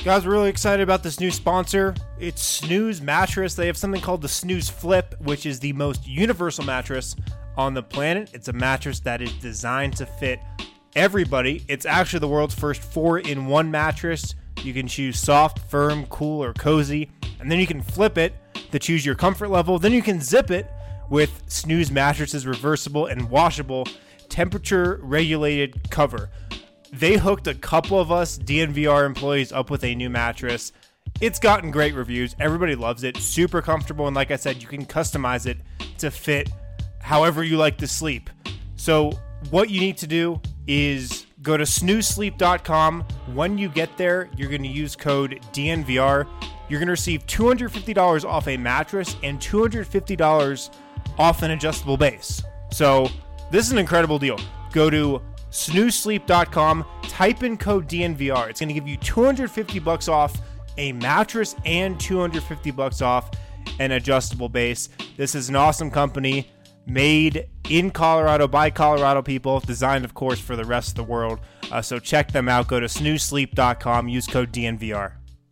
Guys, we're really excited about this new sponsor. It's Snooze Mattress. They have something called the Snooze Flip, which is the most universal mattress on the planet. It's a mattress that is designed to fit everybody. It's actually the world's first 4-in-1 mattress. You can choose soft, firm, cool, or cozy, and then you can flip it to choose your comfort level. Then you can zip it with Snooze Mattress's reversible and washable temperature-regulated cover. They hooked a couple of us DNVR employees up with a new mattress. It's gotten great reviews. Everybody loves it. Super comfortable. And like I said, you can customize it to fit however you like to sleep. So what you need to do is go to snoozesleep.com. When you get there, you're going to use code DNVR. You're going to receive $250 off a mattress and $250 off an adjustable base. So this is an incredible deal. Go to snoozesleep.com, type in code DNVR. It's going to give you $250 off a mattress and $250 off an adjustable base. This is an awesome company made in Colorado by Colorado people, designed, of course, for the rest of the world. So check them out. Go to snoozesleep.com, use code DNVR.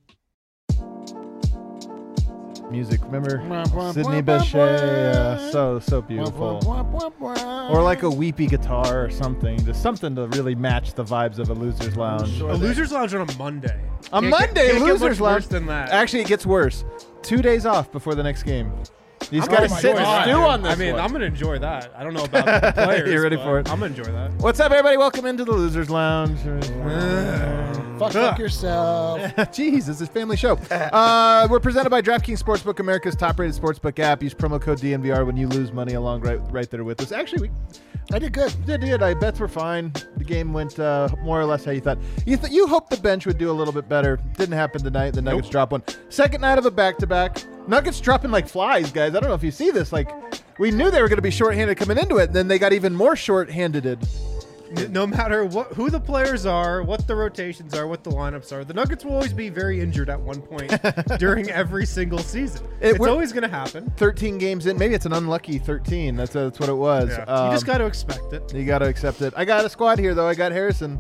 Music, remember Sidney Bechet? So beautiful. Or like a weepy guitar or something, just something to really match the vibes of a Loser's Lounge. A Loser's Lounge on a Monday. Loser's Lounge. Worse than that. Actually, it gets worse. 2 days off before the next game. You just got to sit and stew on this. I mean, one. I'm going to enjoy that. I don't know about the players. You're ready for it? I'm going to enjoy that. What's up, everybody? Welcome into the Loser's Lounge. Fuck yourself. Jeez, this is a family show. We're presented by DraftKings Sportsbook, America's top-rated sportsbook app. Use promo code DNVR when you lose money along right there with us. Actually, I did good. Did. I bets were fine. The game went more or less how you thought. You hoped the bench would do a little bit better. Didn't happen tonight. The Nuggets dropped one. Second night of a back-to-back. Nuggets dropping like flies, guys. I don't know if you see this. Like, we knew they were going to be shorthanded coming into it, and then they got even more shorthanded. No matter who the players are, what the rotations are, what the lineups are, the Nuggets will always be very injured at one point during every single season. It's always going to happen. 13 games in. Maybe it's an unlucky 13. That's what it was. Yeah. You just got to expect it. You got to accept it. I got a squad here, though. I got Harrison.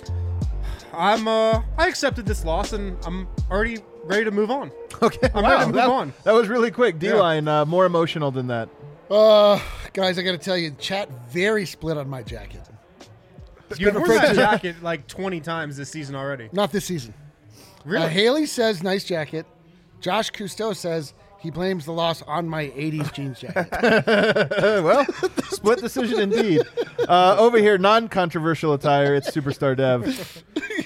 I accepted this loss, and I'm already ready to move on. Okay. I'm ready to move on. That was really quick. D-line, more emotional than that. Guys, I got to tell you, chat very split on my jacket. You've worn that jacket like 20 times this season already. Not this season. Really? Haley says, nice jacket. Josh Cousteau says he blames the loss on my 80s jeans jacket. Well, split decision indeed. Over here, non-controversial attire, it's Superstar Dev.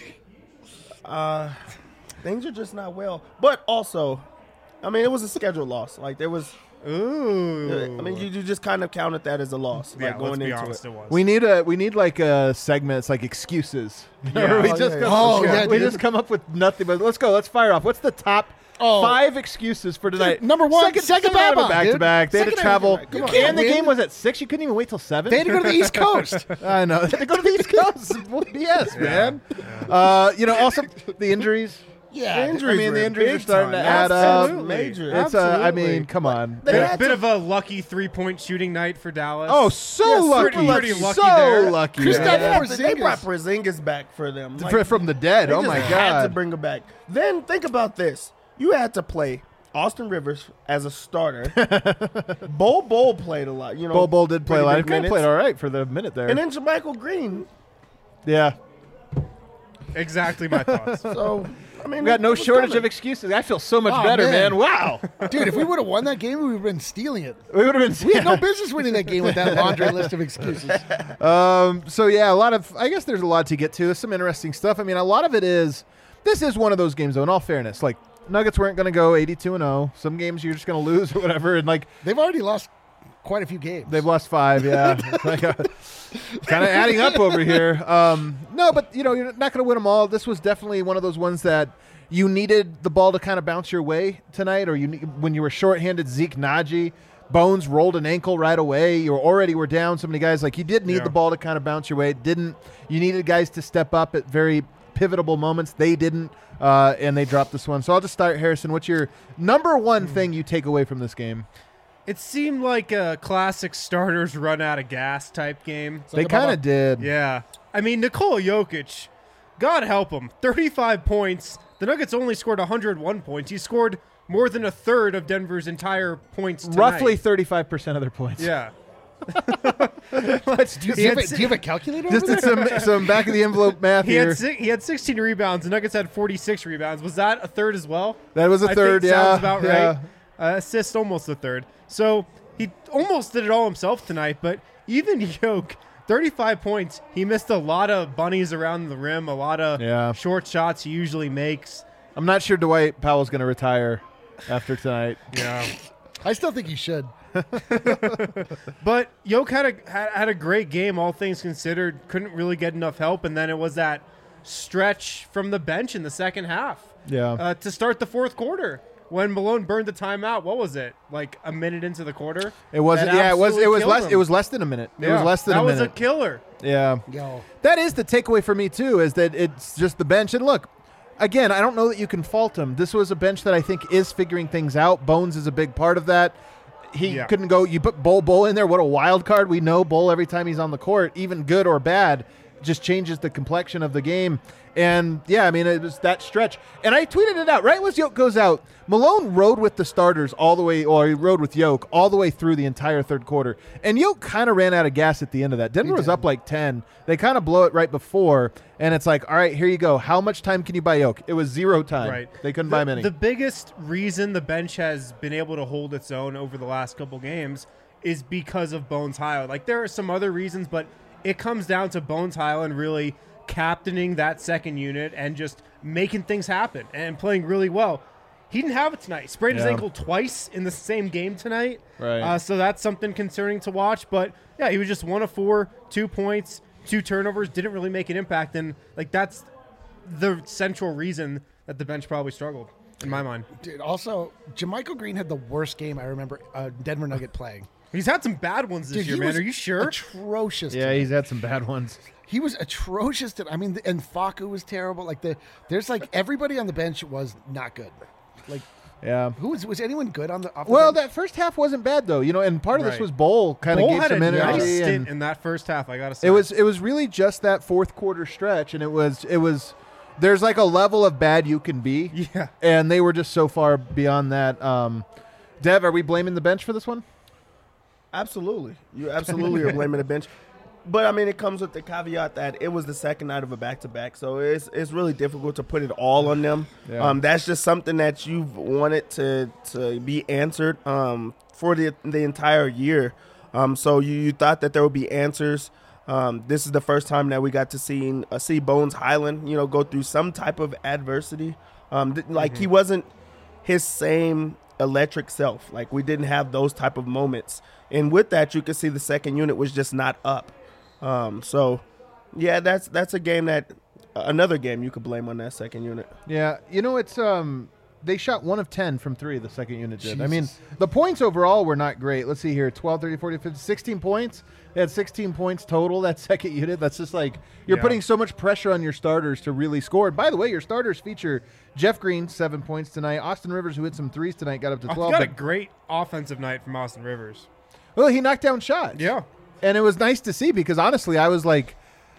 Things are just not well. But also, I mean, it was a scheduled loss. Like, there was... Ooh. I mean, you just kind of counted that as a loss. Yeah, like going let's be into honest, it. it was. We need like a segment. It's like excuses. Yeah. We just come up with nothing. But let's go. Let's fire off. What's the top 5 excuses for tonight? Number one, second back-to-back. They had to travel. And the game was at 6. You couldn't even wait till 7. They had to go to the East Coast. I know. They had to go to the East Coast. BS, man. Also the injuries. Yeah, the injuries are starting to add up. Major. It's I mean, come on. Bit of a lucky 3-point shooting night for Dallas. Oh, lucky. Pretty lucky so there. lucky. Kristaps Yeah. They brought Porzingis back for them. From the dead. They Oh, just my had to God. bring him back. Then think about this. You had to play Austin Rivers as a starter. Bol played a lot. Bol did play a lot. He pretty big played all right for the minute there. And then JaMychal Green. Yeah. Exactly my thoughts. So, I mean, We got no it was shortage coming. of excuses. I feel so much Oh, better, man. man. Wow. Dude, if we would have won that game, we would have been stealing it. We would have been. We had no business winning that game with that laundry list of excuses. So yeah, I guess there's a lot to get to. There's some interesting stuff. I mean, a lot of it is. This is one of those games, though. In all fairness, like Nuggets weren't going to go 82-0. Some games you're just going to lose or whatever, and like They've already lost quite a few games. they've lost 5. Yeah, kind of adding up over here. No, but you're not going to win them all. This was definitely one of those ones that you needed the ball to kind of bounce your way tonight, or when you were shorthanded, Zeke Naji. Bones rolled an ankle right away. You were down so many guys. Like, you did need the ball to kind of bounce your way. It didn't. You needed guys to step up at very pivotal moments. They didn't, and they dropped this one. So I'll just start, Harrison. What's your number one thing you take away from this game? It seemed like a classic starters run out of gas type game. They kind of did. Yeah. I mean, Nikola Jokic God help him. 35 points. The Nuggets only scored 101 points. He scored more than a third of Denver's entire points tonight. Roughly 35% of their points. Yeah. Do you have a calculator Just over there? did some back of the envelope math He here. had 16 rebounds. The Nuggets had 46 rebounds. Was that a third as well? That was a third, think yeah. Sounds about yeah. right. Assist almost a third. So he almost did it all himself tonight, but even Yoke, 35 points. He missed a lot of bunnies around the rim, a lot of short shots he usually makes. I'm not sure Dwight Powell's going to retire after tonight. Yeah. I still think he should. But Yoke had a great game, all things considered. Couldn't really get enough help, and then it was that stretch from the bench in the second half. Yeah. To start the fourth quarter when Malone burned the timeout. What was it? Like a minute into the quarter? It wasn't. That Yeah, it was absolutely less. killed It him. was less than a minute. It Yeah, was less than a minute. That was a killer. Yeah. Yo. That is the takeaway for me too. Is that it's just the bench. And look, again, I don't know that you can fault him. This was a bench that I think is figuring things out. Bones is a big part of that. He couldn't go. You put Bull in there. What a wild card. We know Bull every time he's on the court, even good or bad, just changes the complexion of the game. And yeah, I mean, it was that stretch. And I tweeted it out right as Yoke goes out. Malone rode with the starters all the way, or he rode with Yoke all the way through the entire third quarter. And Yoke kind of ran out of gas at the end of that. Denver was up like 10. They kind of blow it right before. And it's like, all right, here you go. How much time can you buy Yoke? It was 0 time. Right. They couldn't buy many. The biggest reason the bench has been able to hold its own over the last couple games is because of Bones Highland. Like, there are some other reasons, but it comes down to Bones Highland really captaining that second unit and just making things happen and playing really well. He didn't have it tonight. He sprained his ankle twice in the same game tonight. Right. So that's something concerning to watch. But, yeah, he was just 1 of 4, 2 points, 2 turnovers, didn't really make an impact. And, like, that's the central reason that the bench probably struggled, in my mind. Dude, also, Jermichael Green had the worst game I remember Denver Nugget playing. He's had some bad ones this Dude, year, he man. was Are you sure? Atrocious. yeah, he's had some bad ones. He was atrocious. I mean, and Facu was terrible. Like there's like everybody on the bench was not good. Like, Yeah. who was anyone good on the? Off the Well, bench? that first half wasn't bad though, and part of this Right. was Bull kind of Bull gave had some a energy. nice and stint in that first half, I got to say. it was really just that fourth quarter stretch, and it was there's like a level of bad you can be, Yeah. and they were just so far beyond that. Dev, are we blaming the bench for this one? Absolutely. You absolutely are blaming the bench. But, I mean, it comes with the caveat that it was the second night of a back-to-back, so it's really difficult to put it all on them. Yeah. That's just something that you've wanted to be answered for the entire year. So you thought that there would be answers. This is the first time that we got to see Bones Highland, go through some type of adversity. He wasn't his same electric self. Like, we didn't have those type of moments. And with that, you could see the second unit was just not up. So, yeah, that's a game another game you could blame on that second unit. Yeah, it's they shot 1 of 10 from 3, the second unit did. I mean, the points overall were not great. Let's see here, 12, 30, 40, 50, 16 points. They had 16 points total, that second unit. That's just like you're putting so much pressure on your starters to really score. And by the way, your starters feature Jeff Green, 7 points tonight. Austin Rivers, who hit some threes tonight, got up to 12. Got a great offensive night from Austin Rivers. Well, he knocked down shots. Yeah. And it was nice to see because honestly, I was like,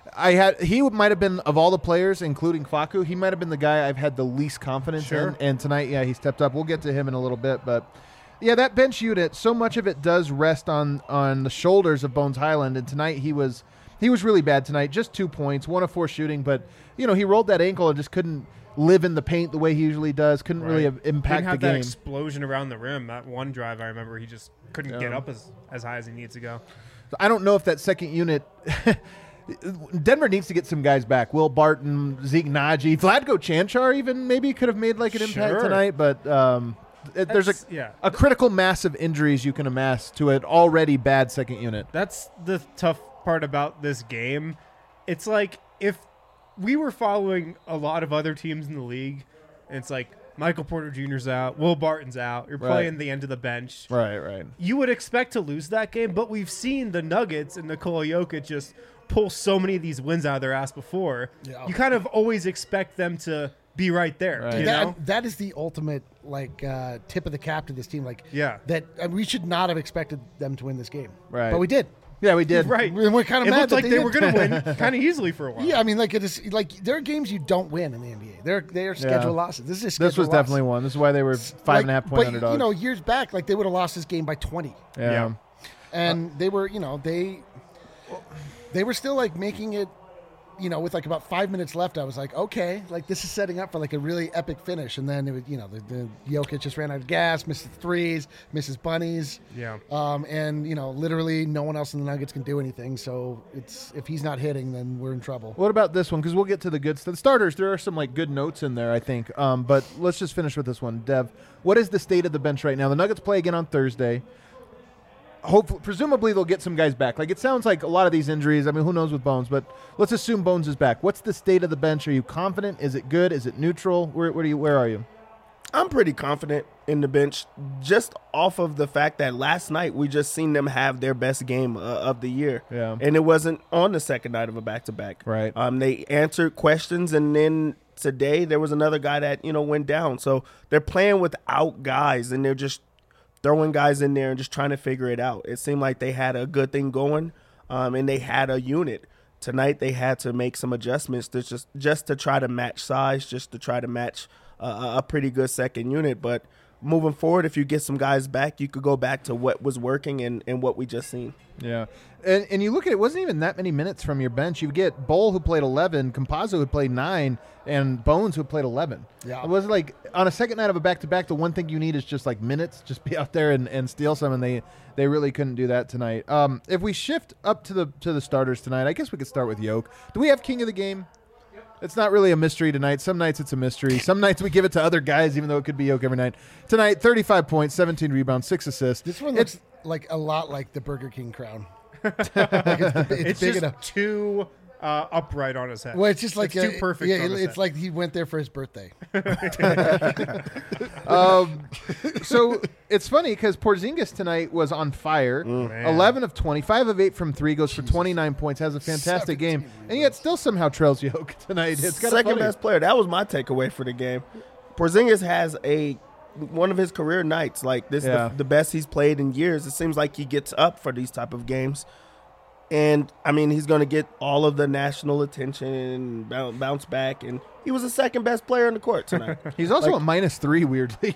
he might have been, of all the players, including Facu, he might have been the guy I've had the least confidence in. And tonight, he stepped up. We'll get to him in a little bit. But, yeah, that bench unit, so much of it does rest on the shoulders of Bones Highland. And tonight he was really bad tonight. Just 2 points, 1 of 4 shooting. But, he rolled that ankle and just couldn't live in the paint the way he usually does. Couldn't really impact Didn't have the that game. explosion around the rim. That one drive, I remember, he just couldn't get up as high as he needs to go. I don't know if that second unit Denver needs to get some guys back. Will Barton, Zeke Naji, Vlatko Chanchar even maybe could have made like an impact tonight, but there's a critical mass of injuries you can amass to an already bad second unit. That's the tough part about this game. It's like if we were following a lot of other teams in the league, and it's like Michael Porter Jr.'s out, Will Barton's out, you're playing the end of the bench. Right. You would expect to lose that game, but we've seen the Nuggets and Nikola Jokic just pull so many of these wins out of their ass before. Yeah. You kind of always expect them to be right there. Right. You know? That is the ultimate tip of the cap to this team. Like, yeah, that we should not have expected them to win this game. Right. But we did. Yeah, we did. Right. We're kind of It mad looked that like they did. were going to win kind of easily for a while. Yeah, I mean, like it is like there are games you don't win in the NBA. They are scheduled losses. This is a scheduled This was loss. definitely one. This is why they were 5.5 point but, underdogs. You know, years back, like they would have lost this game by 20, yeah. and they were, you know, they were still like making it. You know, with like about 5 minutes left, I was like, okay, like this is setting up for like a really epic finish. And then it was, you know, the Jokic just ran out of gas, misses threes, misses bunnies. Yeah. And you know, literally no one else in the Nuggets can do anything. So it's if he's not hitting, then we're in trouble. What about this one? Because we'll get to the good stuff. The starters, there are some like good notes in there, I think. But let's just finish with this one. Dev, what is the state of the bench right now? The Nuggets play again on Thursday. Hopefully, presumably they'll get some guys back. Like it sounds like a lot of these injuries. I mean, who knows with Bones? But let's assume Bones is back. What's the state of the bench? Are you confident? Is it good? Is it neutral? Where are you? I'm pretty confident in the bench, just off of the fact that last night we just seen them have their best game of the year. Yeah. And it wasn't on the second night of a back-to-back. Right. They answered questions, and then today there was another guy that, you know, went down. So they're playing without guys, and they're just throwing guys in there and just trying to figure it out. It seemed like they had a good thing going, and they had a unit. Tonight they had to make some adjustments to just to try to match size, just to try to match a pretty good second unit. But moving forward, if you get some guys back, you could go back to what was working and what we just seen. Yeah. And you look at it, wasn't even that many minutes from your bench. You get Bol, who played 11, Campazzo, who played 9, and Bones, who played 11. Yeah. It was like on a second night of a back-to-back, the one thing you need is just like minutes. Just be out there and steal some, and they really couldn't do that tonight. If we shift up to the starters tonight, I guess we could start with Yoke. Do we have king of the game? It's not really a mystery tonight. Some nights it's a mystery. Some nights we give it to other guys, even though it could be Yoke every night. Tonight, 35 points, 17 rebounds, 6 assists. This one looks like a lot like the Burger King crown. It's big just enough. too upright on his head. Well, it's just like too perfect. Yeah, on his it's head. like he went there for his birthday. So it's funny because Porzingis tonight was on fire. Man. 11 of 20, 5 of 8 from 3, goes for 29 points, has a fantastic game, and yet still somehow trails Yoke tonight. It's kind of Second funny. best player. That was my takeaway for the game. Porzingis has one of his career nights. Like this, Yeah. the best he's played in years. It seems like he gets up for these type of games, and I mean he's going to get all of the national attention and bounce back. And he was the second best player on the court tonight. He's also Like- a -3, weirdly.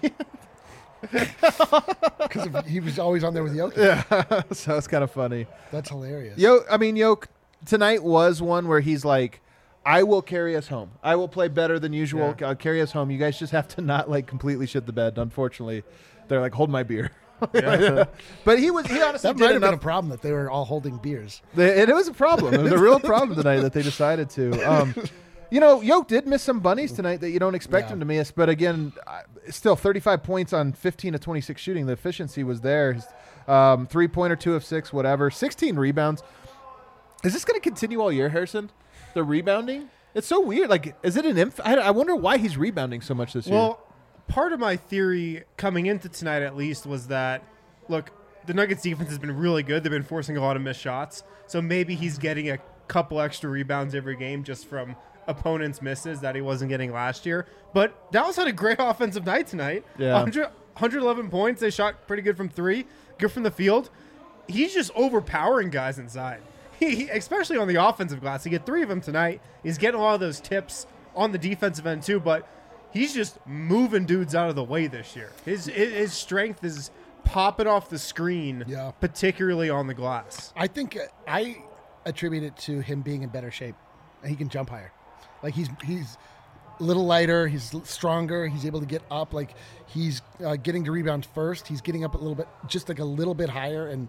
Because he was always on there with Jokic. So it's kind of funny. That's hilarious. Yoke tonight was one where he's like, I will carry us home. I will play better than usual. Yeah. I'll carry us home. You guys just have to not like completely shit the bed. Unfortunately, they're like, hold my beer. Yeah. But he honestly that did might have been enough. a problem that they were all holding beers. It was a problem. It was a real problem tonight that they decided to. Yoke did miss some bunnies tonight that you don't expect Yeah. him to miss. But again, still 35 points on 15 of 26 shooting. The efficiency was there. 3-pointer, 2 of 6, whatever. 16 rebounds. Is this going to continue all year, Harrison? The rebounding? It's so weird. Like, is it an I wonder why he's rebounding so much this year. Well, part of my theory coming into tonight, at least, was that, look, the Nuggets defense has been really good. They've been forcing a lot of missed shots. So maybe he's getting a couple extra rebounds every game just from opponents' misses that he wasn't getting last year. But Dallas had a great offensive night tonight. Yeah. 111 points. They shot pretty good from 3, good from the field. He's just overpowering guys inside. He especially on the offensive glass. He get 3 of them tonight. He's getting a lot of those tips on the defensive end too, but he's just moving dudes out of the way this year. His strength is popping off the screen, Yeah. particularly on the glass. I think I attribute it to him being in better shape, and he can jump higher. Like he's a little lighter, he's stronger, he's able to get up. Like he's getting to rebound first. He's getting up a little bit, just like a little bit higher, and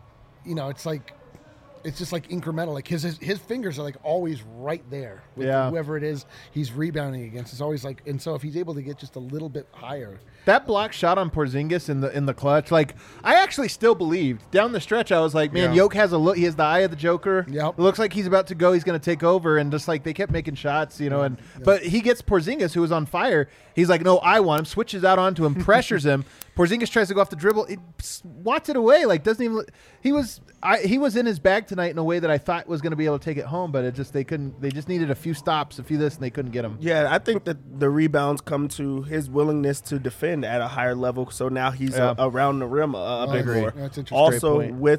it's just like incremental. Like his fingers are like always right there with whoever it is he's rebounding against. It's always like, and so if he's able to get just a little bit higher. that block shot on Porzingis in the clutch, like I actually still believed down the stretch. I was like, man, Yeah. Yoke has a look. He has the eye of the Joker. Yep. It looks like he's about to go. He's going to take over, and just like they kept making shots, but he gets Porzingis, who was on fire. He's like, no, I want him. Switches out onto him, pressures him. Porzingis tries to go off the dribble. It swats it away. Like doesn't even. He was in his bag tonight in a way that I thought was going to be able to take it home, but they couldn't. They just needed a few stops, a few this, and they couldn't get him. Yeah, I think that the rebounds come to his willingness to defend at a higher level. So now he's Yeah. around the rim a bit agree. more. That's interesting. Also, Great point. with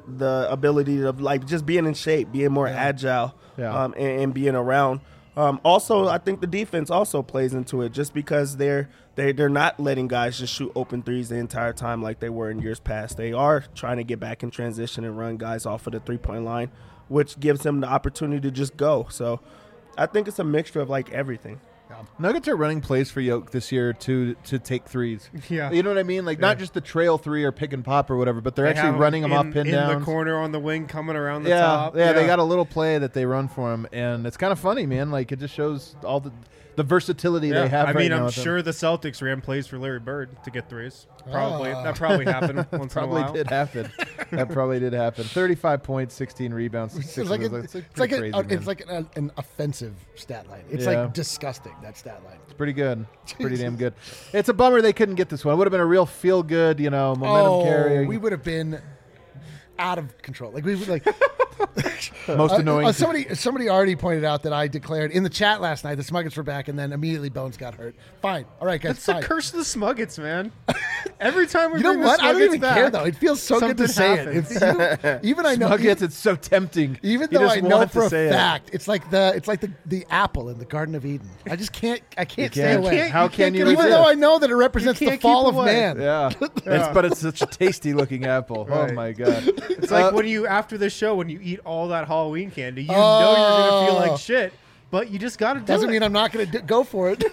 the ability of like just being in shape, being more agile, Yeah. and being around. Also, I think the defense also plays into it, just because they're not letting guys just shoot open threes the entire time like they were in years past. They are trying to get back in transition and run guys off of the 3-point line, which gives them the opportunity to just go. So I think it's a mixture of like everything. Nuggets are running plays for Yoke this year to take threes. Yeah. You know what I mean? Like not just the trail three or pick and pop or whatever, but they're They actually have running them off pin in downs. the corner on the wing, coming around the Yeah, top. yeah, they got a little play that they run for him, and it's kind of funny, man. Like it just shows all the versatility they have. I right mean, now I'm with them. sure the Celtics ran plays for Larry Bird to get threes. Probably that probably happened once in a Probably while. did happen. That probably did happen. 35 points, 16 rebounds. It's six like, assists. it's pretty like, crazy, a, man. it's like an offensive stat line. It's Yeah. like disgusting, that stat line. It's pretty good. It's pretty damn good. It's a bummer they couldn't get this one. It would have been a real feel good, momentum carry. We would have been out of control. Like we would like Most annoying. somebody already pointed out that I declared in the chat last night the Smuggets were back, and then immediately Bones got hurt. Fine, all right, guys. That's the fine. curse of the Smuggets, man. Every time we You know bring what? the I don't Smuggets even back, care though. It feels so good to something say happens. it. Even I know. Nuggets, it's so tempting. Even You though just I know want for to a say it. fact, it's like the apple in the Garden of Eden. I just can't. I can't stay can't. away. How can you Even resist? though I know that it represents You the can't fall keep of away. man. Yeah. But it's such a tasty looking apple. Right. Oh my god. It's like when you after the show when you eat all that Halloween candy, you know you're gonna feel like shit, but you just gotta do Doesn't it. mean I'm not going to go for it.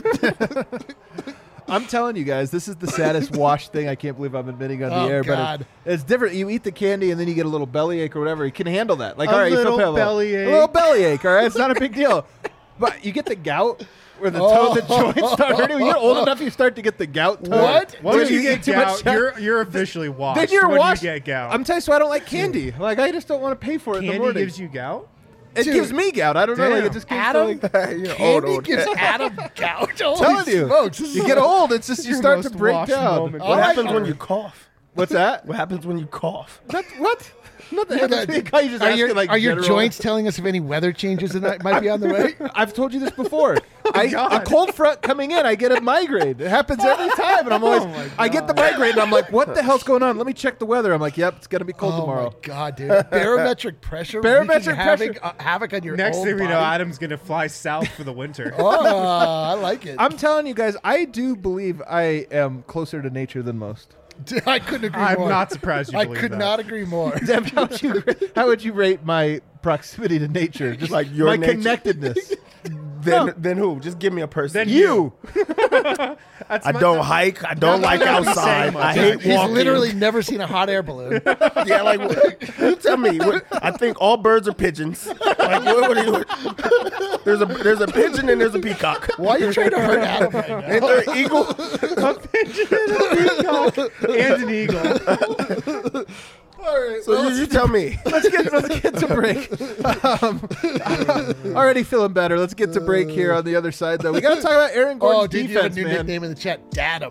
I'm telling you guys, this is the saddest wash thing I can't believe I'm admitting on Oh, the air. God. But it's different. You eat the candy and then you get a little bellyache or whatever. You can handle that. Like, A all right, you little feel bellyache. a little bellyache. All right, it's not a big deal. But you get the gout where the the joints start hurting. When you get old enough, you start to get the gout. tone. What? Once When you eat get too much gout, you're officially washed. then you're when washed. You get gout. I'm telling you, so I don't like candy. Like I just don't want to pay for it in the Candy morning. gives you gout. It Dude. gives me gout. I don't know. Like Damn. it just gives Adam? like, You're Candy gives Adam gout. Holy telling you, smokes, this you is get old. It's just you your start to most break washed down. moment. Oh, What I happens like when it. you cough? What's that? What happens when you cough? What? Nothing. Are You just asking, like, your general- joints telling us if any weather changes that might be on the way? I've told you this before. A God. cold front coming in, I get a migraine. It happens every time, and I'm always. my I get the migraine, and I'm like, "What the hell's going on?" Let me check the weather. I'm like, "Yep, it's gonna be cold Oh tomorrow." my god, dude! Barometric pressure, Barometric wreaking pressure. havoc on your Next old thing we know, body. Adam's gonna fly south for the winter. Oh, I like it. I'm telling you guys, I do believe I am closer to nature than most. I couldn't agree I'm more. not surprised you I believe could that. not agree more. Deb, how would you rate my proximity to nature? Just Like your my nature? connectedness. Then who? Just give me a person. Then You. That's I my- don't hike. I don't like not be outside. saying much. I hate He's walking. literally never seen a hot air balloon. Yeah, like you tell me. I think all birds are pigeons. Like what are you? There's a pigeon and there's a peacock. Why are you trying to hurt Adam right now? Ain't there an eagle? a pigeon and a peacock and an eagle. All right. So you tell me. Let's get to break. Already feeling better. Let's get to break here on the other side, though. We got to talk about Aaron Gordon's Oh, dude, you have a defense, new man. nickname in the chat, Dadam.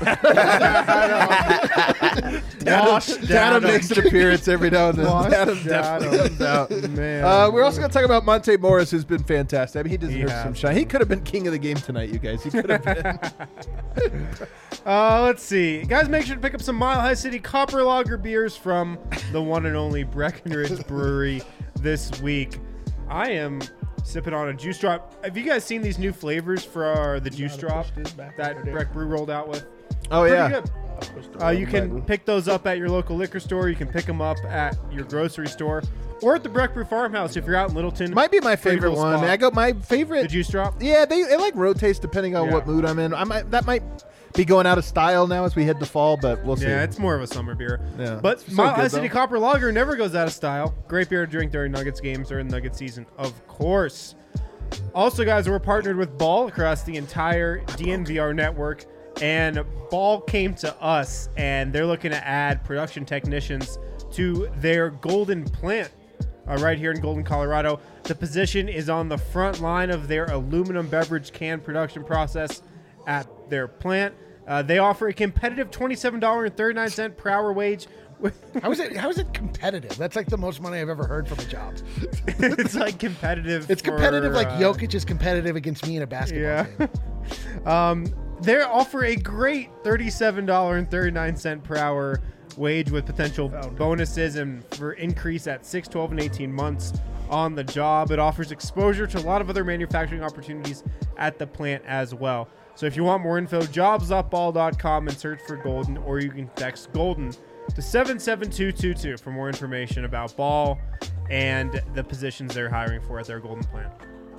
Wash Dadam down. makes an appearance every now and then. Wash Dadam down. definitely comes out. Man. We're also going to talk about Monte Morris, who's been fantastic. I mean, he deserves has. some shine. He could have been king of the game tonight, you guys. He could have been. Let's see. Guys, make sure to pick up some Mile High City Copper Lager beers from the one and only Breckenridge Brewery this week. I am sipping on a juice drop. Have you guys seen these new flavors for the juice drop that Breck Brew rolled out with? Oh, Pretty yeah. good. You can pick those up at your local liquor store. You can pick them up at your grocery store or at the Breck Brew Farmhouse if you're out in Littleton. Might be my Pretty favorite cool one. spot. I got my favorite. The juice drop. Yeah, they like rotates depending on Yeah. what mood I'm in. That might be going out of style now as we head to fall, but we'll see. Yeah, it's more of a summer beer. Yeah. But It's so Mile High good, City though. Copper Lager never goes out of style. Great beer to drink during Nuggets games or in Nugget season, of course. Also, guys, we're partnered with Ball across the entire DNVR network. And Ball came to us, and they're looking to add production technicians to their Golden plant right here in Golden, Colorado. The position is on the front line of their aluminum beverage can production process at their plant. They offer a competitive $27.39 per hour wage. How is it competitive? That's like the most money I've ever heard from a job. It's like competitive. It's competitive for, like Jokic is competitive against me in a basketball game. They offer a great $37.39 per hour wage with potential bonuses and for increase at 6, 12, and 18 months on the job. It offers exposure to a lot of other manufacturing opportunities at the plant as well. So if you want more info, jobs.ball.com and search for Golden, or you can text Golden to 77222 for more information about Ball and the positions they're hiring for at their Golden plant.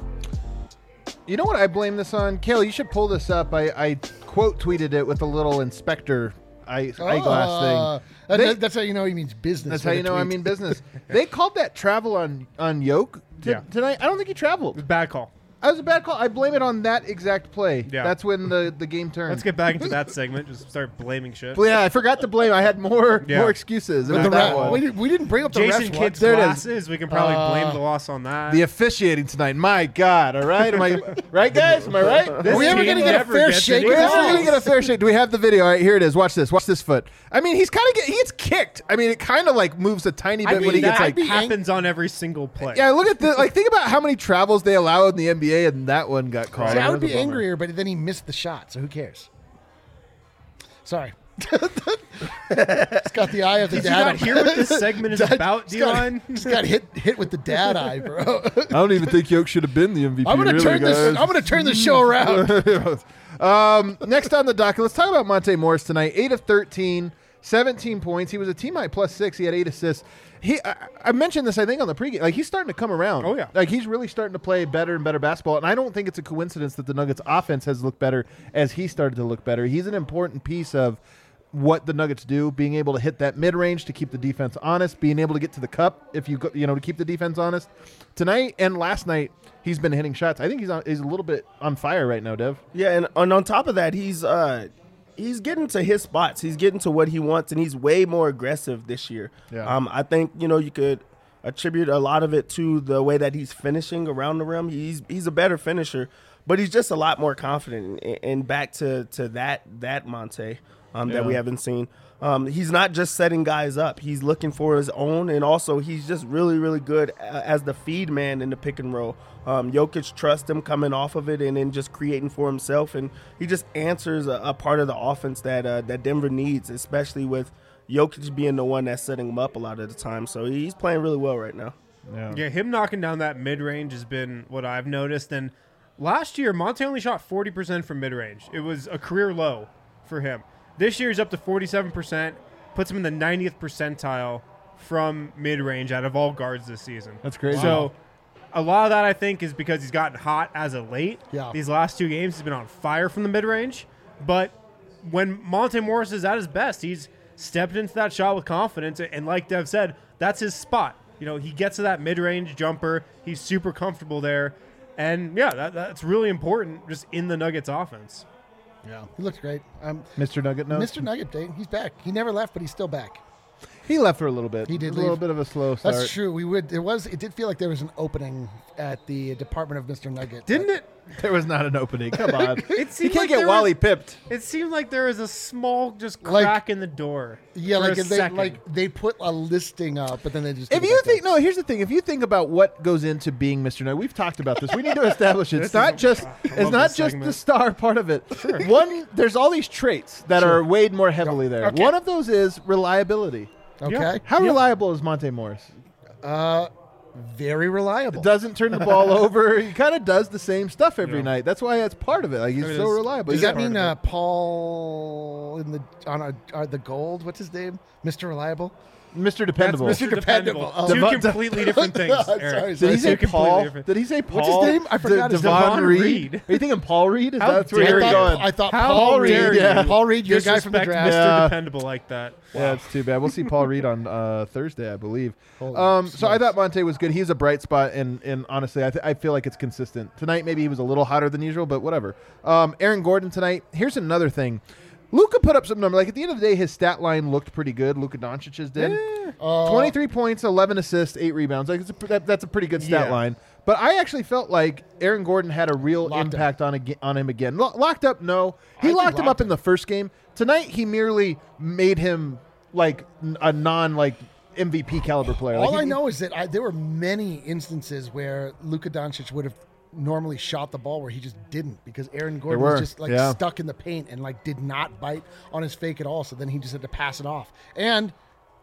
You know what I blame this on? Kale, you should pull this up. I quote tweeted it with a little inspector eyeglass thing. That's how you know he means business. That's how you know I mean business. They called that travel on Yoke tonight. I don't think he traveled. Bad call. That was a bad call. I blame it on that exact play. Yeah. That's when the game turned. Let's get back into that segment. Just start blaming shit. Well, yeah, I forgot to blame. I had more excuses. It was that one. We didn't bring up the Jason refs Kidd's There it is. glasses. We can probably blame the loss on that. The officiating tonight. My God. All right. Am I right, guys? Am I right? This Are we ever team going to get a never fair gets shake? any We're never calls. going to get a fair shake. Do we have the video? All right, here it is. Watch this. Watch this foot. I mean, he's kind of he gets kicked. I mean, it kind of like moves a tiny bit when he gets that like. happens on every single play. Yeah, look at the think about how many travels they allow in the NBA, and that one got called. See, I That would was be a bummer. angrier, but then he missed the shot, so who cares? Sorry. It's got the eye of the Did you dad. not hear what this segment is about, Dion? Just got hit with the dad eye, bro. I don't even think Yoke should have been the MVP. I'm gonna turn this show around. Next on the docket, let's talk about Monte Morris tonight. 8 of 13, 17 points. He was a team high +6. He had 8 assists. I mentioned this, I think, on the pregame. Like, he's starting to come around. Oh, yeah. Like, he's really starting to play better and better basketball. And I don't think it's a coincidence that the Nuggets offense has looked better as he started to look better. He's an important piece of what the Nuggets do, being able to hit that mid-range to keep the defense honest, being able to get to the cup to keep the defense honest. Tonight and last night, he's been hitting shots. I think he's a little bit on fire right now, Dev. Yeah, and on top of that, he's getting to his spots. He's getting to what he wants, and he's way more aggressive this year. Yeah. I think you could attribute a lot of it to the way that he's finishing around the rim. He's a better finisher, but he's just a lot more confident. And back to that Monte that we haven't seen. He's not just setting guys up. He's looking for his own, and also he's just really, really good as the feed man in the pick and roll. Jokic trusts him coming off of it and then just creating for himself, and he just answers a part of the offense that Denver needs, especially with Jokic being the one that's setting him up a lot of the time. So he's playing really well right now. Yeah, him knocking down that mid-range has been what I've noticed. And last year, Monte only shot 40% from mid-range. It was a career low for him. This year, he's up to 47%, puts him in the 90th percentile from mid-range out of all guards this season. That's crazy. So a lot of that, I think, is because he's gotten hot as of late. Yeah. These last 2 games, he's been on fire from the mid-range. But when Monte Morris is at his best, he's stepped into that shot with confidence. And like Dev said, that's his spot. He gets to that mid-range jumper. He's super comfortable there. And, yeah, that's really important just in the Nuggets offense. Yeah, he looks great. Mr. Nugget knows. Mr. Nugget, he's back. He never left, but he's still back. He left for a little bit. He did A little leave. bit of a slow start. That's true. It did feel like there was an opening at the Department of Mr. Nugget. Didn't it? There was not an opening. Come on. It He seemed can't like get there Wally was- pipped. It seemed like there was a small just Like- crack in the door. Yeah, for like a second. they put a listing up, but then they just. If took it you back think down. no, here's the thing. If you think about what goes into being Mr. Nugget, we've talked about this. We need to establish it. It's not just this the segment. star part of it. One, there's all these traits that are weighed more heavily there. Okay. One of those is reliability. Okay, How reliable is Monte Morris? very reliable. Doesn't turn the ball over. He kind of does the same stuff every Yeah. night. That's why that's part of it. Like he's It so is. reliable. Does He's that mean Paul on the gold? What's his name? Mr. Reliable. Mr. Dependable? That's Mr. Dependable. Oh. Two Devon- completely different things. Sorry, Eric. sorry. Did he say Two completely Paul? different- Did he say Paul? What's his name? I forgot his name. Devon Devon Reed. Reed. Are you thinking Paul Reed? How That's where dare you're you. going. I thought How Paul Reed. dare Yeah, you Paul Reed, your guy from the Disrespect draft. Mr. Yeah. Dependable like that. Yeah, it's too bad. We'll see Paul Reed on Thursday, I believe. Holy So I smokes. thought Monte was good. He's a bright spot, and honestly, I feel like it's consistent. Tonight, maybe he was a little hotter than usual, but whatever. Aaron Gordon tonight. Here's another thing. Luka put up some number. Like at the end of the day, his stat line looked pretty good. Luka Doncic's did. 23 points, 11 assists, 8 rebounds. Like that's a pretty good stat Yeah. line. But I actually felt like Aaron Gordon had a real Locked him. impact on him again. Locked up, no. He think locked him locked up in the first game. Tonight, he merely made him like a MVP caliber player. All Like, I know is that there were many instances where Luka Doncic would have normally shot the ball where he just didn't, because Aaron Gordon was just like stuck in the paint and like did not bite on his fake at all. So then he just had to pass it off. And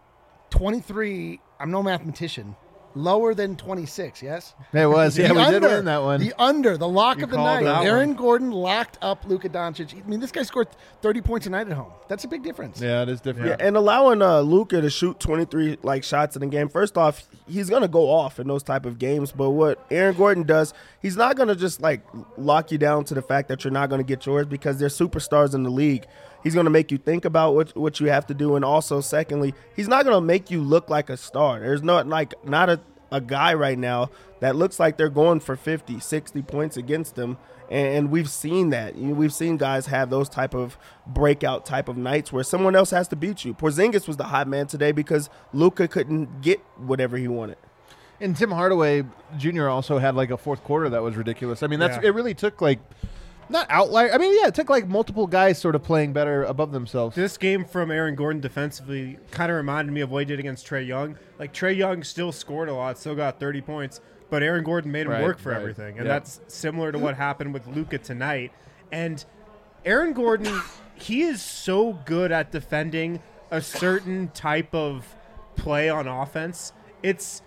23, I'm no mathematician, lower than 26, yes? It was. Yeah, we did win that one. The lock of the night. that Aaron one. Gordon locked up Luka Doncic. I mean, this guy scored 30 points a night at home. That's a big difference. Yeah, it is different. Yeah, and allowing Luka to shoot 23 like shots in a game. First off, he's gonna go off in those type of games. But what Aaron Gordon does, he's not gonna just like lock you down to the fact that you're not gonna get yours, because they're superstars in the league. He's gonna make you think about what you have to do, and also secondly, he's not gonna make you look like a star. There's not a guy right now that looks like they're going for 50, 60 points against them. And we've seen that. We've seen guys have those type of breakout type of nights where someone else has to beat you. Porzingis was the hot man today because Luka couldn't get whatever he wanted. And Tim Hardaway Jr. also had like a fourth quarter that was ridiculous. I mean, it really took like not outlier. I mean, yeah, it took like multiple guys sort of playing better above themselves. This game from Aaron Gordon defensively kind of reminded me of what he did against Trae Young. Like, Trae Young still scored a lot, still got 30 points, but Aaron Gordon made him work for everything. And that's similar to what happened with Luka tonight. And Aaron Gordon, he is so good at defending a certain type of play on offense. It's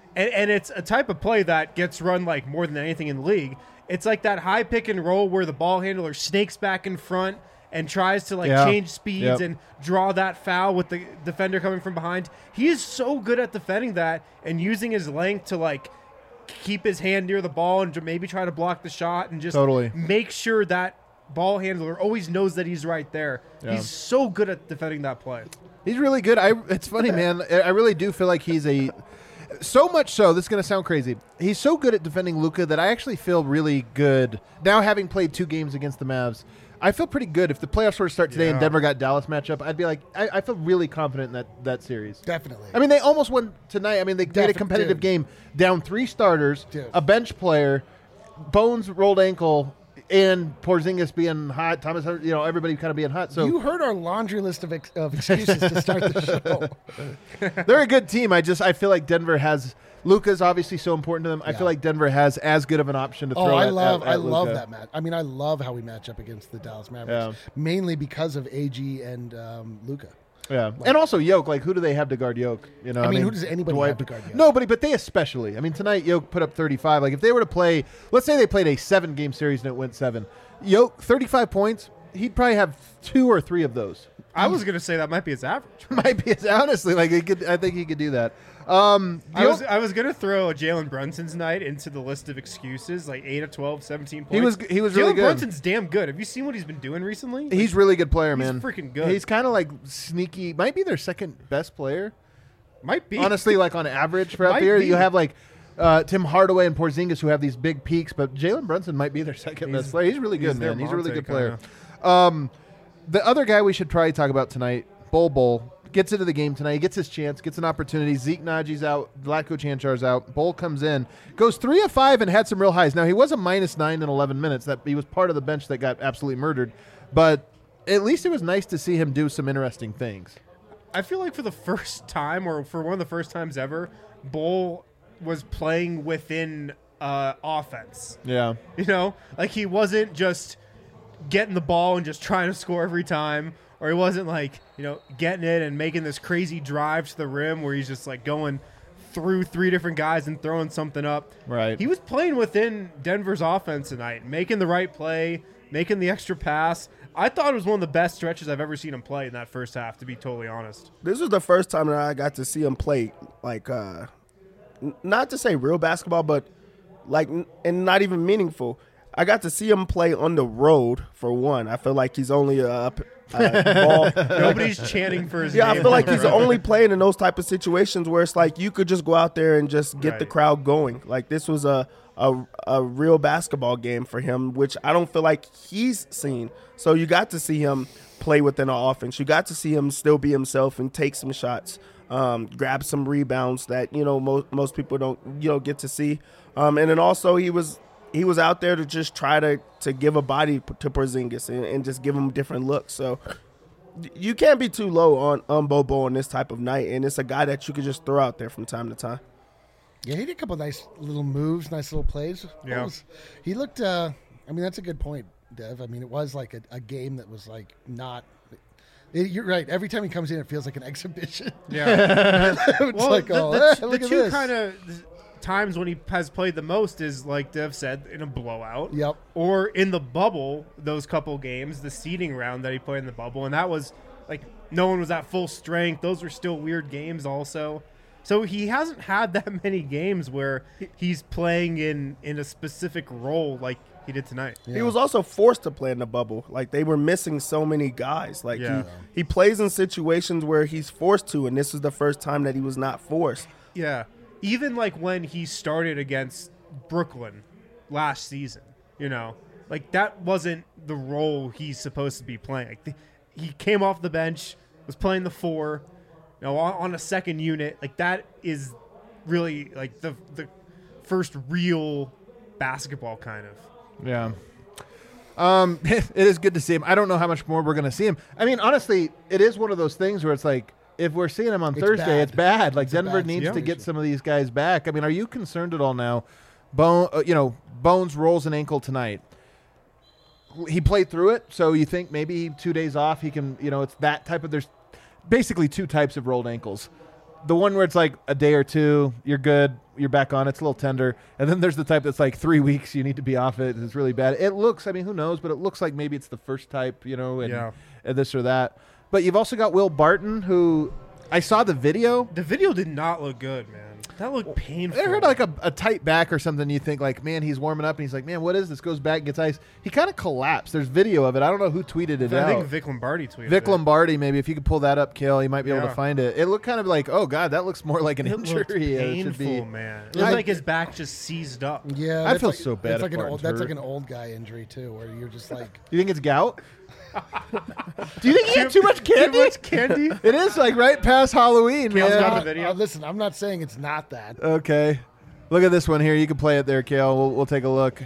a type of play that gets run like more than anything in the league. It's like that high pick and roll where the ball handler snakes back in front and tries to change speeds and draw that foul with the defender coming from behind. He is so good at defending that and using his length to like keep his hand near the ball and maybe try to block the shot and just make sure that ball handler always knows that he's right there. Yeah. He's so good at defending that play. He's really good. It's funny, man. I really do feel like he's so much so, this is going to sound crazy, he's so good at defending Luka that I actually feel really good. Now, having played 2 games against the Mavs, I feel pretty good. If the playoffs were to start today and Denver got Dallas matchup, I'd be like, I feel really confident in that series. Definitely. I mean, they almost won tonight. I mean, they played a competitive game, down 3 starters, a bench player, Bones rolled ankle, and Porzingis being hot, Thomas, everybody kind of being hot. So you heard our laundry list of excuses to start the show. They're a good team. I feel like Denver has Luka's obviously so important to them. I feel like Denver has as good of an option to throw. I love that match. I mean, I love how we match up against the Dallas Mavericks, mainly because of AG and Luka. Yeah, and also Yoke. Like, who do they have to guard Yoke? I mean, who does anybody have to guard Yoke? Nobody, but they especially. I mean, tonight Yoke put up 35. Like, if they were to play, let's say they played a 7-game series and it went 7. Yoke, 35 points. He'd probably have 2 or 3 of those. I was going to say that might be his average. Might be his, honestly. Like, I think he could do that. I was going to throw Jalen Brunson's night into the list of excuses, like 8 of 12, 17 points. He was really good. Jalen Brunson's damn good. Have you seen what he's been doing recently? He's really good player, man. He's freaking good. He's kind of like sneaky. Might be their second best player. Might be. Honestly, like on average throughout the year, you have like Tim Hardaway and Porzingis who have these big peaks, but Jalen Brunson might be their second best player. He's really good, man. He's a really good player. The other guy we should probably talk about tonight, Bol. Gets into the game tonight. He gets his chance, gets an opportunity. Zeke Naji's out. Vlatko Chanchar's out. Bol comes in, goes 3 of 5 and had some real highs. Now, he was a -9 in 11 minutes. That he was part of the bench that got absolutely murdered. But at least it was nice to see him do some interesting things. I feel like for the first time, or for one of the first times ever, Bol was playing within offense. Yeah. Like he wasn't just getting the ball and just trying to score every time. Or he wasn't like, getting it and making this crazy drive to the rim where he's just like going through 3 different guys and throwing something up. Right. He was playing within Denver's offense tonight, making the right play, making the extra pass. I thought it was one of the best stretches I've ever seen him play in that first half, to be totally honest. This was the first time that I got to see him play, like, not to say real basketball, but like, and not even meaningful. I got to see him play on the road, for one. I feel like he's only ball. Nobody's chanting for his name. I feel like he's only playing in those type of situations where it's like you could just go out there and just get the crowd going. Like this was a real basketball game for him, which I don't feel like he's seen. So you got to see him play within an offense. You got to see him still be himself and take some shots, grab some rebounds that most people don't get to see. And then also he was out there to just try to give a body to Porzingis and just give him different looks. So you can't be too low on Bobo on this type of night, and it's a guy that you could just throw out there from time to time. Yeah, he did a couple nice little moves, nice little plays. Yeah. He looked. I mean, that's a good point, Dev. I mean, it was like a game that was like not. You're right. Every time he comes in, it feels like an exhibition. Yeah. It's Well, like, the look at two this. kind of times when he has played the most is, like Dev said, in a blowout. Yep. Or in the bubble, those couple games, the seeding round that he played in the bubble. And that was, like, no one was at full strength. Those were still weird games also. So he hasn't had that many games where he's playing in a specific role like he did tonight. Yeah. He was also forced to play in the bubble. Like, they were missing so many guys. Like, Yeah. he plays in situations where he's forced to, and this is the first time that he was not forced. Yeah. Even like when he started against Brooklyn last season, like that wasn't the role he's supposed to be playing. Like he came off the bench, was playing the 4, on a second unit. Like that is really like the first real basketball kind of. Yeah. It is good to see him. I don't know how much more we're going to see him. I mean, honestly, it is one of those things where it's like, if we're seeing him on It's Thursday, bad. it's bad. Like It's a Denver bad needs to situation. get some of these guys back. I mean, are you concerned at all now? Bones rolls an ankle tonight. He played through it, so you think maybe 2 days off he can, it's that type of, there's basically two types of rolled ankles. The one where it's like a day or two, you're good, you're back on, it's a little tender. And then there's the type that's like 3 weeks, you need to be off it, it's really bad. It looks, I mean, who knows, but it looks like maybe it's the first type, and this or that. But you've also got Will Barton, who I saw the video. The video did not look good, man. That looked painful. I heard like a tight back or something. You think like, man, he's warming up, and he's like, man, what is this? Goes back, gets ice. He kind of collapsed. There's video of it. I don't know who tweeted it I out. think Vic Lombardi tweeted Vic it. Lombardi, maybe if you could pull that up, Kill, you might be able Yeah. to find it. It looked kind of like, oh god, that looks more like an It looked injury. It should be. painful, man. It looked I- like his back just seized up. Yeah, I that's feel like, so bad That's if like an Barton's old. That's hurt. like an old guy injury too, where you're just like, Do you think it's gout? Do you think he had too much candy? Too much candy? It is like right past Halloween, Kale's man. got the video. listen, I'm not saying it's not that. Okay. Look at this one here. You can play it there, Kale. We'll take a look.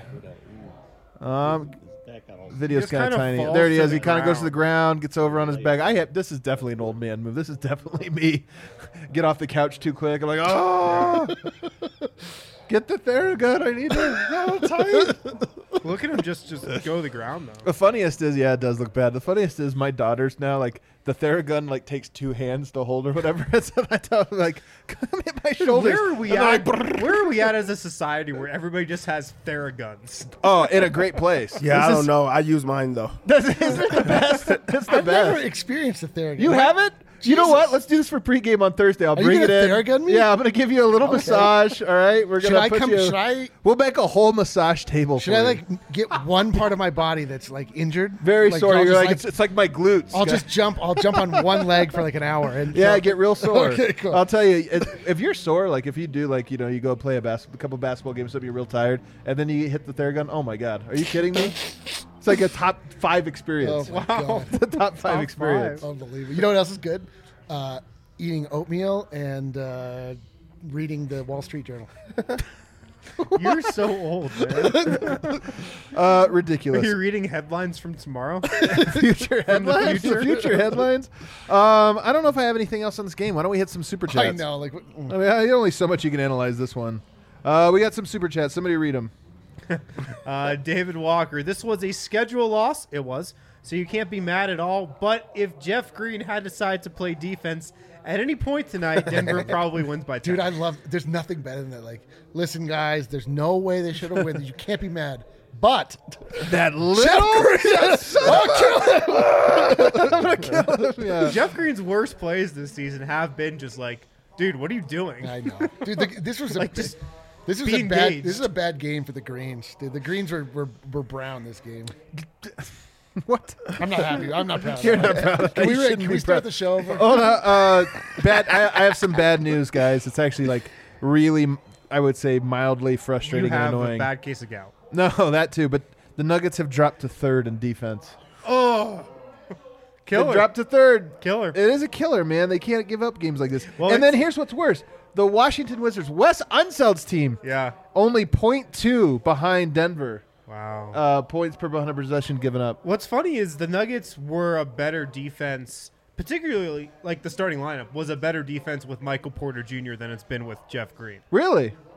Video's just kind of kinda tiny. falls There he to is. the He kind of goes to the ground. ground, gets over on his back. This is definitely an old man move. This is definitely me. Get off the couch too quick. I'm like, oh, get the Theragun. I need to go tight. Look at him just go to the ground, though. The funniest is, yeah, it does look bad. The funniest is my daughters now, like, the Theragun, like, takes 2 hands to hold or whatever. So I tell them, like, come hit my shoulders. Where are we And they're at? like, Where are we at as a society where everybody just has Theraguns? oh, in a great place. Yeah, I This don't is- know. I use mine, though. This is the best. It's the I've never best. experienced a Theragun. You haven't? You know Jesus. what? Let's do this for pregame on Thursday. I'll you bring it gonna in. Theragun me? Yeah, I'm gonna give you a little Okay. massage. All right, we're Should gonna I put come? you. Should I? We'll make a whole massage table. Should for I you. like get one part of my body that's like injured? very like, sore? I'll You're just, like, it's like my glutes. I'll just jump. I'll jump on one leg for like an hour and yeah, get real sore. Okay, cool. I'll tell you, if you're sore, like if you do, like you go play a couple basketball games, so you're real tired, and then you hit the Theragun. Oh my god, are you kidding me? It's like a top 5 experience. Oh my God. The top 5 experience. Unbelievable. You know what else is good? Eating oatmeal and reading the Wall Street Journal. You're so old, man. Ridiculous. You're reading headlines from tomorrow? Future headlines. future? The future headlines. I don't know if I have anything else on this game. Why don't we hit some super chats? I know. Like, I mean, there's only so much you can analyze this one. We got some super chats. Somebody read them. David Walker, this was a schedule loss. It was. So you can't be mad at all. But if Jeff Green had decided to play defense at any point tonight, Denver probably wins by 10. dude, I love. There's nothing better than that. Like, listen, guys. There's no way they should have won. You can't be mad. But That little. Yeah. Jeff Green's worst plays this season have been just like, dude, what are you doing? I know, dude. This was Like, just this was be a bad. engaged. This is a bad game for the Greens, dude. The Greens were brown this game. What? I'm not happy. I'm not proud. You're of not that. proud of that. Can You we, shouldn't can be we start proud. the show over? Hold on. Bad. I have some bad news, guys. It's actually like really, I would say, mildly You frustrating have and annoying. a bad case of gout. No, that too. But the Nuggets have dropped to 3rd in defense. Oh, They killer. dropped to 3rd. Killer. It is a killer, man. They can't give up games like this. Well, and then it's- here's what's worse: the Washington Wizards, Wes Unseld's team, Yeah. only 0.2 behind Denver. Wow. Points per 100 possession given up. What's funny is the Nuggets were a better defense, particularly like the starting lineup was a better defense with Michael Porter Jr. than it's been with Jeff Green. Really?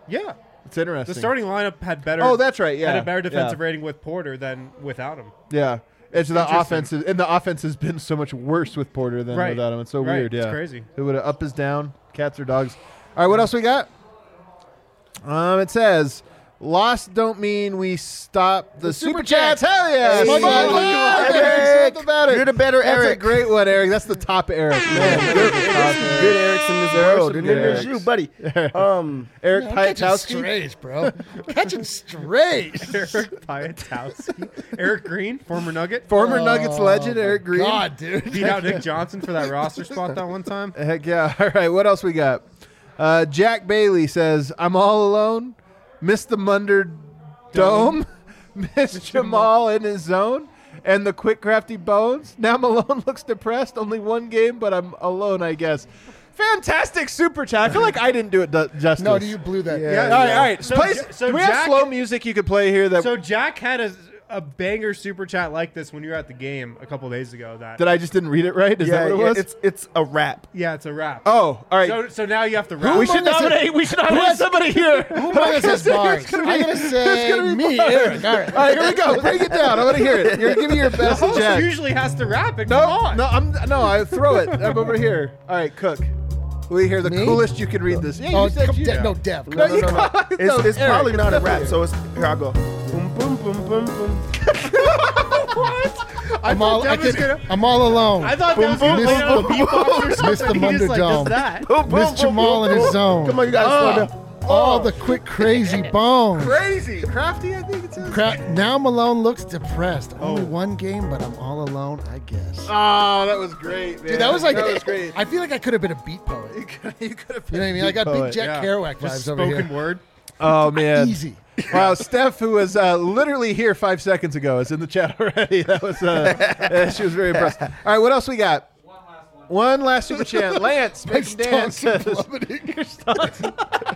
Yeah. It's interesting. The starting lineup had better. Oh, that's right. Yeah. Had a better defensive yeah. rating with Porter than without him. Yeah. It's the Interesting. offense, and the offense has been so much worse with Porter than Right. without him. It's so Right. weird. Yeah. It's crazy. It would have up is down. Cats or dogs. All right. What else we got? It says, lost don't mean we stop the super chats. Hell yeah. Come on, Eric. Something about it. You're the better That's Eric. a great one, Eric. That's the top Eric. Man, Good Erics in this world, and then there's you, buddy. Eric I'm catching Piatowski. strays, bro. Catching strays. Eric Piatowski. Eric Green, former Nugget. Former Nuggets legend, Eric Green. God, dude. Beat out Nick Johnson for that roster spot that one time. Heck yeah. All right. What else we got? Jack Bailey says, I'm all alone. Miss the Munder Dome. Miss Jamal in his zone. And the quick, crafty bones. Now Malone looks depressed. Only one game, but I'm alone, I guess. Fantastic super chat. I feel like I didn't do it justice. No, you blew that. Yeah. All right, all right. So Play, Ja- so do we have Jack- slow music you could play here? That So Jack had a banger super chat like this when you were at the game a couple days ago. That I just didn't read it right? Is that what it was? It's a rap. yeah, it's a rap. Oh, all right. So now you have to rap. we should nominate. We should nominate somebody here. Who among us has bars? I'm gonna say me, Eric. All right. All right, here we go. Break it down. I want to hear it. You're give me your The best, host Jack. usually has to rap it. No, Come on. no, I throw it. I'm over here. All right, Cook. We hear the Me? coolest you can read this. Yeah, Oh, you said come, you. no, Dev. No, you No. can't. It's Eric, probably not a it's rap. definitely- So it's here I go. Boom, boom, boom, boom, boom. I'm all, Dev was I'm all alone. I thought Boom, that was going to boom, play out a boom, beatbox or Miss something. the He just like does Munderdome. that. Boom, boom, Miss boom, Jamal boom, in his boom. zone. Come on, you gotta slow down. All the quick, crazy bones. Crazy. Crafty, I think it says. Now Malone looks depressed. Only one game, but I'm all alone, I guess. Oh, that was great, man. Dude, that was like, that was great. I feel like I could have been a beat poet. You could have You know what I mean? I got big Jack Kerouac Just vibes over spoken here. word. Oh, man. Easy. Wow, Steph, who was literally here 5 seconds ago, is in the chat already. That was she was very impressed. All right, what else we got? One last super chat. Lance, My make Dan stonks are says. plummeting. Your stonks.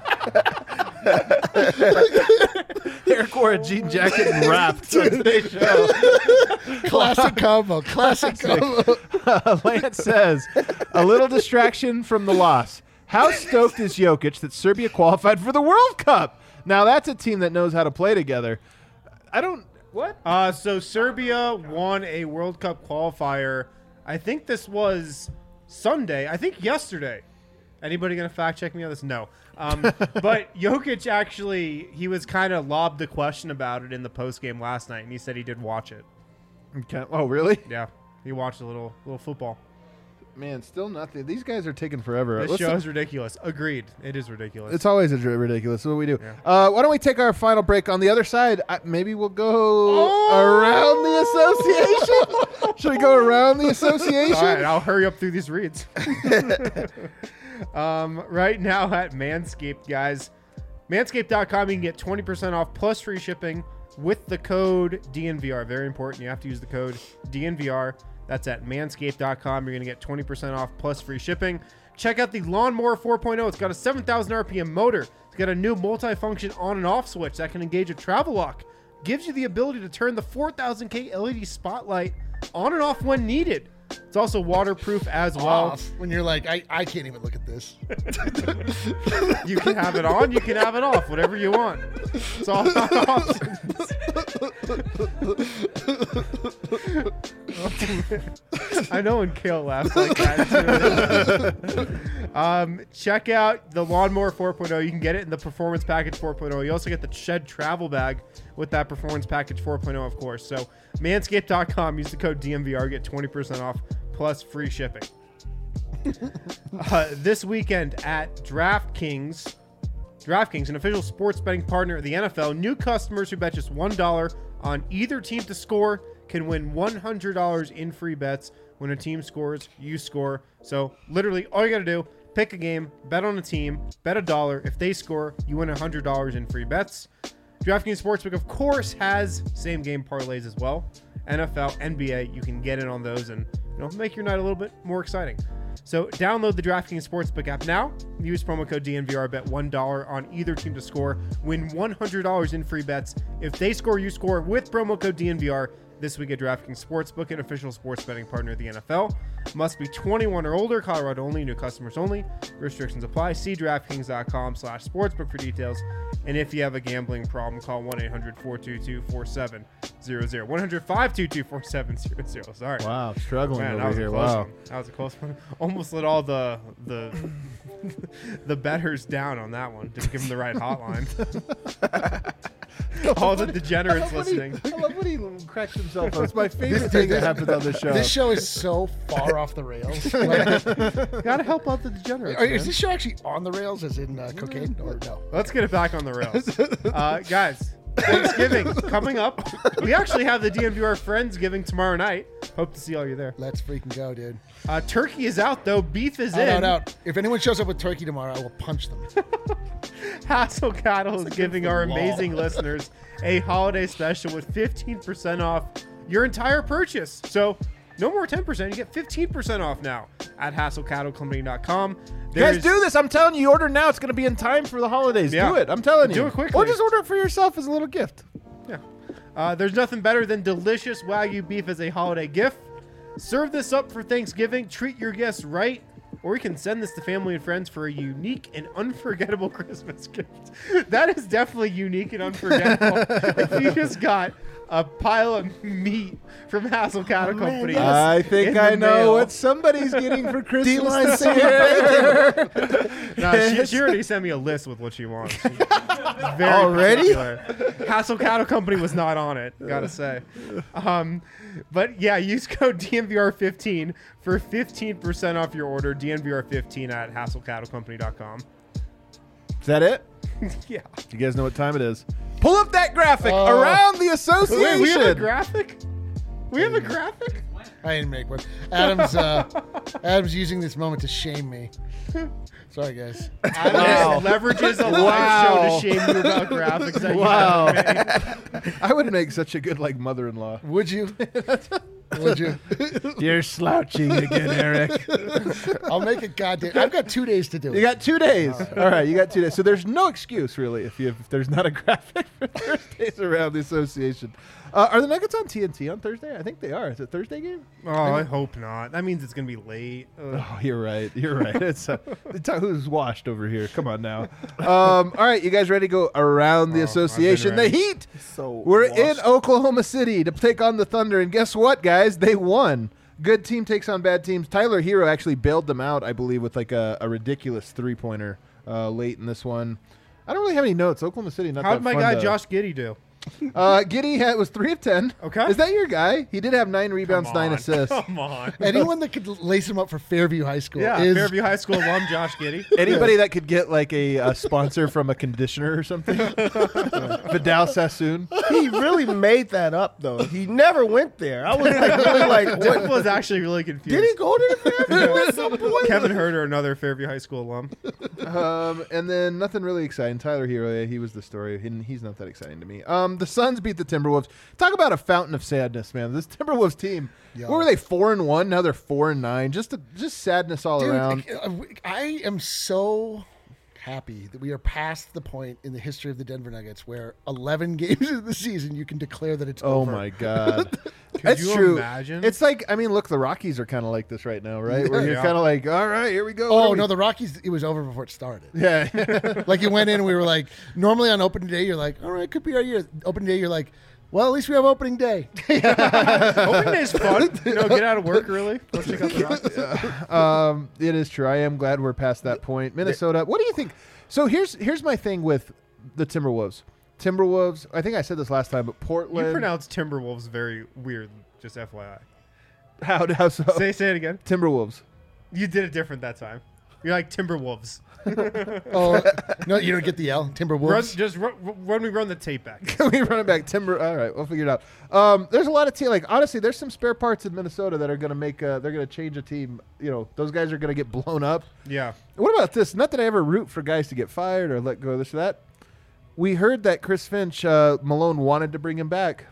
Eric wore a jean jacket and rapped on today's show. Classic combo. Classic combo. Lance says, a little distraction from the loss. How stoked is Jokic that Serbia qualified for the World Cup? Now that's a team that knows how to play together. What? So Serbia won a World Cup qualifier. I think this was Sunday. I think yesterday. Anybody going to fact check me on this? No. But Jokic actually, he was kind of lobbed the question about it in the post game last night, and he said he did watch it. Okay. Oh, really? Yeah, he watched a little football. Man, still nothing. These guys are taking forever. This show is ridiculous. Agreed. It is ridiculous. It's always ridiculous. That's what we do. Yeah. Why don't we take our final break? On the other side, maybe we'll go around the association. Should we go around the association? All right, I'll hurry up through these reads. Right now at Manscaped, guys. Manscaped.com, you can get 20% off plus free shipping with the code DNVR. Very important. You have to use the code DNVR. That's at manscaped.com. You're going to get 20% off plus free shipping. Check out the Lawnmower 4.0. It's got a 7,000 RPM motor. It's got a new multi-function on and off switch that can engage a travel lock. Gives you the ability to turn the 4000K LED spotlight on and off when needed. It's also waterproof as well. Off. When you're like, I can't even look at this. You can have it on, you can have it off, whatever you want. It's all about options. I know when Kale laughs like that too. Check out the Lawnmower 4.0. You can get it in the Performance Package 4.0. You also get the Shed Travel Bag with that Performance Package 4.0, of course. So manscaped.com, use the code DMVR, get 20% off plus free shipping. This weekend at DraftKings, an official sports betting partner of the NFL, new customers who bet just $1 on either team to score can win $100 in free bets. When a team scores, you score. So literally all you got to do, pick a game, bet on a team, bet $1. If they score, you win $100 in free bets. DraftKings Sportsbook, of course, has same game parlays as well. NFL, NBA, you can get in on those and make your night a little bit more exciting. So download the DraftKings Sportsbook app now. Use promo code DNVR. Bet $1 on either team to score. Win $100 in free bets. If they score, you score with promo code DNVR. This week at DraftKings Sportsbook, an official sports betting partner of the NFL. Must be 21 or older, Colorado only, new customers only. Restrictions apply. See DraftKings.com/sportsbook for details. And if you have a gambling problem, call 1-800-422-4700. 1-522-4700. Sorry. Wow, struggling Man, that over was here. a close Wow. one. That was a close one. Almost let all the the betters down on that one. Didn't give them the right hotline. All the degenerates listening. I love when he cracks himself up. It's my favorite thing that happens on this show. This show is so far off the rails. Like, Gotta help out the degenerates. is man. this show actually on the rails, as in cocaine, or no? Let's get it back on the rails. Guys, Thanksgiving coming up. We actually have the DNVR Friendsgiving tomorrow night. Hope to see all you there. Let's freaking go, dude. Turkey is out, though. Beef is in. Out. If anyone shows up with turkey tomorrow, I will punch them. Hassel Cattle is giving our amazing listeners a holiday special with 15% off your entire purchase. So no more 10%. You get 15% off now at HassleCattleCompany.com. Guys, do this. I'm telling you, you order now. It's going to be in time for the holidays. Yeah. Do it. I'm telling you. Do it quickly. Or just order it for yourself as a little gift. Yeah. There's nothing better than delicious Wagyu beef as a holiday gift. Serve this up for Thanksgiving. Treat your guests right. Or you can send this to family and friends for a unique and unforgettable Christmas gift. That is definitely unique and unforgettable. If you just got a pile of meat from Hassel Cattle Company. I think in I the know mail. what somebody's getting for Christmas D-line this singing year. No, she already sent me a list with what she wants. She's very Already? particular. Hassel Cattle Company was not on it, gotta say. But yeah, use code DNVR15 for 15% off your order. DNVR15 at HassleCattleCompany.com. Is that it? Yeah. You guys know what time it is. Pull up that graphic around the association. Wait, we have a graphic? We have a graphic? I didn't make one. Adam's using this moment to shame me. Sorry, guys. Adam leverages a live show to shame you about graphics. That you haven't made. I would make such a good mother-in-law. Would you? Would you? You're slouching again, Eric. I'll make it goddamn. I've got 2 days to do it. You got 2 days. All right, you got 2 days. So there's no excuse really if there's not a graphic for Thursdays around the association. Are the Nuggets on TNT on Thursday? I think they are. Is it a Thursday game? Oh, I hope not. That means it's going to be late. Oh, you're right. You're right. It's who's washed over here. Come on now. All right, you guys ready to go around the association? I've been The ready. Heat. So We're washed. in Oklahoma City to take on the Thunder, and guess what, guys? They won. Good team takes on bad teams. Tyler Hero actually bailed them out, I believe, with a ridiculous three-pointer late in this one. I don't really have any notes. Oklahoma City, not How that did my fun guy to- Josh Giddey do? Giddey was 3 of 10. Okay. Is that your guy? He did have 9 rebounds, Come 9 on. assists. Come on. Anyone that could lace him up for Fairview High School Yeah, is Fairview High School alum Josh Giddey. Anybody that could get a sponsor from a conditioner or something? Vidal Sassoon. He really made that up, though. He never went there. I was really like, Jeff what? was actually really confused. Did he go to the Fairview at some point? Kevin Herter, another Fairview High School alum. And then nothing really exciting. Tyler Hero, he was the story. He's not that exciting to me. The Suns beat the Timberwolves. Talk about a fountain of sadness, man. This Timberwolves team. Yo. What were they, 4-1? Now they're 4-9. Just sadness all around. Dude, I am so happy that we are past the point in the history of the Denver Nuggets where 11 games of the season you can declare that it's Oh over. my God. Could That's you true. imagine? It's like, look, the Rockies are kind of like this right now, right? Where you're Yeah. kind of like, all right, here we go. What Oh are no, we- the Rockies! It was over before it started. Yeah. Like you went in, and we were like, normally on opening day, you're like, all right, could be our year. Opening day, you're like, well, at least we have opening day. Opening day is fun. Get out of work early. Go check out the Rockies. It is true. I am glad we're past that point. Minnesota, what do you think? So here's my thing with the Timberwolves. Timberwolves, I think I said this last time, but Portland. You pronounce Timberwolves very weird, just FYI. How so? Say it again. Timberwolves. You did it different that time. You're like Timberwolves. Oh no, you don't get the L. Timberwolves. Run the tape back. Can we run it back? Timber. All right, we'll figure it out. There's a lot of team. Honestly, there's some spare parts in Minnesota that are going to make. They're going to change a team. Those guys are going to get blown up. Yeah. What about this? Not that I ever root for guys to get fired or let go of this or that. We heard that Chris Finch, Malone wanted to bring him back.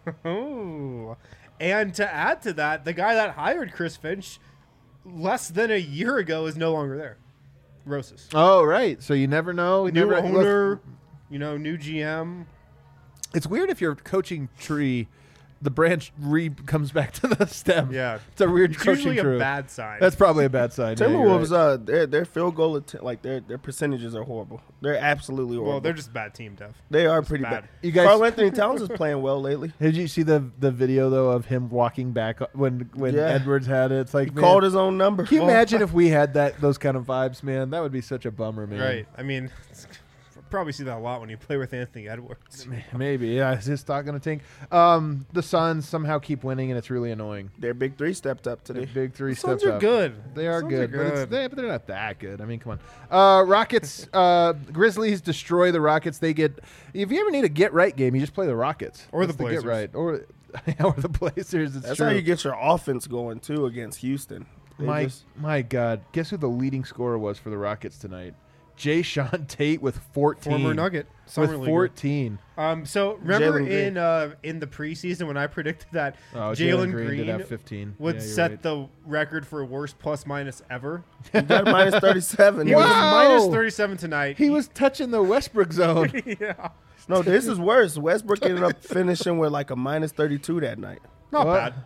Oh. And to add to that, the guy that hired Chris Finch less than a year ago is no longer there. Rosas. Oh, right. So you never know. New owner, new GM. It's weird if your coaching tree the branch comes back to the stem. Yeah. It's a weird It's coaching usually crew. a bad sign. That's probably a bad sign. Yeah, you're right. Timberwolves, their field goal their percentages are horrible. They're absolutely horrible. well, they're just a bad team, Dev. they are pretty bad. bad. You guys- Karl Anthony Towns is playing well lately. Did you see the video though of him walking back when Yeah. Edwards had it? It's like He man, called his own number. can you imagine if we had those kind of vibes, man? That would be such a bummer, man. Right. I mean, probably see that a lot when you play with Anthony Edwards. Maybe. Yeah. Is his stock gonna tank? The Suns somehow keep winning, and it's really annoying. Their big three stepped up The today. big three Suns steps are up. good. They are Suns good, Are but they're not that good. I mean, come on. Rockets, Grizzlies destroy the Rockets. They get. If you ever need a get right game, you just play the Rockets Or That's the get Blazers. right, or the Blazers. It's That's true. how you get your offense going too against Houston. They My God, guess who the leading scorer was for the Rockets tonight? Jay Sean Tate with 14. Former Nugget. Summer with leaguer. 14. So remember Jalen in the preseason when I predicted that Oh, Jalen did Green have 15. would Yeah, you're set right. the record for worst plus minus ever? He got minus 37. He was Wow. minus 37 tonight. He was touching the Westbrook zone. yeah. No, this is worse. Westbrook ended up finishing with like a minus 32 that night. Not What? bad.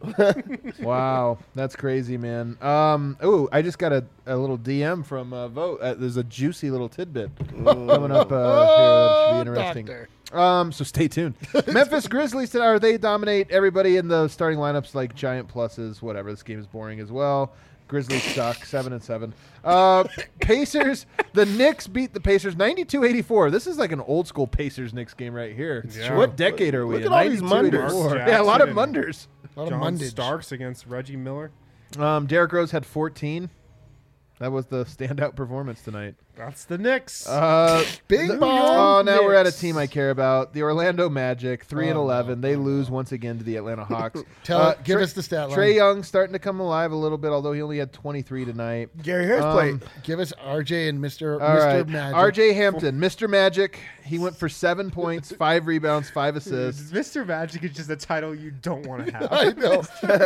Wow, that's crazy, man. Oh, I just got a little DM from Vote. There's a juicy little tidbit coming up here that should be interesting. Doctor. So stay tuned. Memphis Grizzlies they dominate everybody in the starting lineups like giant pluses. Whatever. This game is boring as well. Grizzlies suck 7-7. Pacers. The Knicks beat the Pacers 92-84. This is like an old school Pacers Knicks game right here. Yeah. What decade are we Look in? at all these 92-84. Munders. Yeah, a lot of Jackson and- Munders. A lot of John Mundage. Starks against Reggie Miller. Derrick Rose had 14. That was the standout performance tonight. That's the Knicks. Big Oh, bomb. now we're at a Knicks. team I care about. The Orlando Magic, 3-11. no. They lose once again to the Atlanta Hawks. Give us the stat line. Trey Young starting to come alive a little bit, although he only had 23 tonight. Gary Harris played. Give us RJ and Mr. All right. Magic. RJ Hampton, Mr. Magic. He went for 7 points, 5 rebounds, 5 assists. Mr. Magic is just a title you don't want to have. I know.